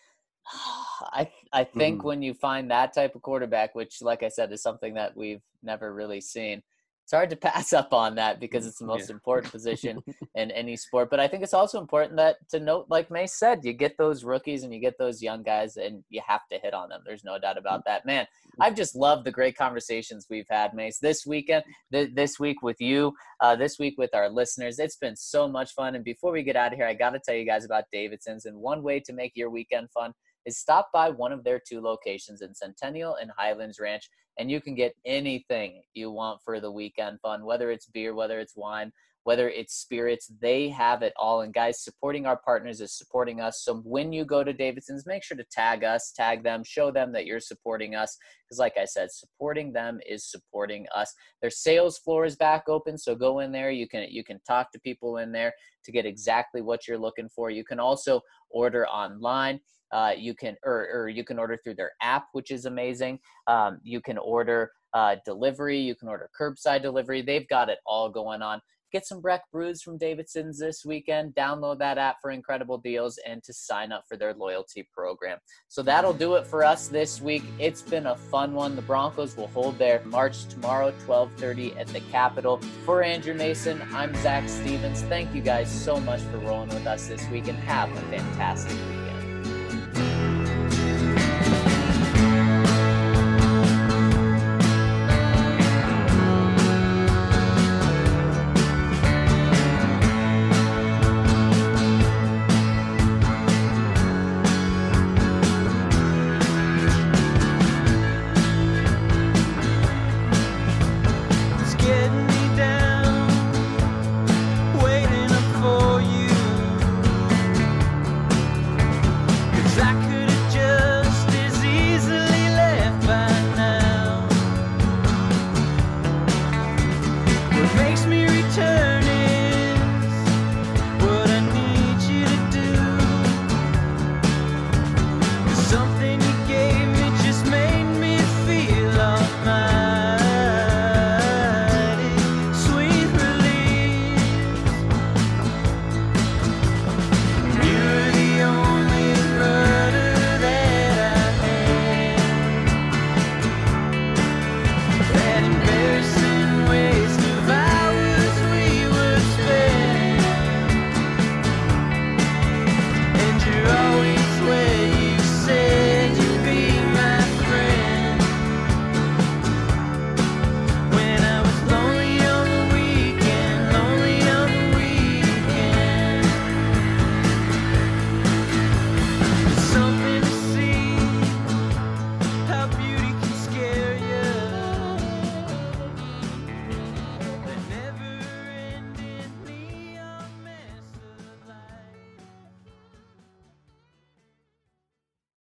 I think when you find that type of quarterback, which, like I said, is something that we've never really seen, it's hard to pass up on that because it's the most important position in any sport. But I think it's also important that to note, like Mace said, you get those rookies and you get those young guys and you have to hit on them. There's no doubt about that. Man, I've just loved the great conversations we've had, Mace, this weekend, this week with you, this week with our listeners. It's been so much fun. And before we get out of here, I got to tell you guys about Davidson's. And one way to make your weekend fun is stop by one of their 2 locations in Centennial and Highlands Ranch, and you can get anything you want for the weekend fun, whether it's beer, whether it's wine, whether it's spirits. They have it all. And guys, supporting our partners is supporting us. So when you go to Davidson's, make sure to tag us, tag them, show them that you're supporting us. Because like I said, supporting them is supporting us. Their sales floor is back open, so go in there. You can talk to people in there to get exactly what you're looking for. You can also order online. You can order through their app, which is amazing. You can order delivery. You can order curbside delivery. They've got it all going on. Get some Breck Brews from Davidson's this weekend. Download that app for incredible deals and to sign up for their loyalty program. So that'll do it for us this week. It's been a fun one. The Broncos will hold their march tomorrow, 12:30 at the Capitol. For Andrew Mason, I'm Zach Stevens. Thank you guys so much for rolling with us this week, and have a fantastic week.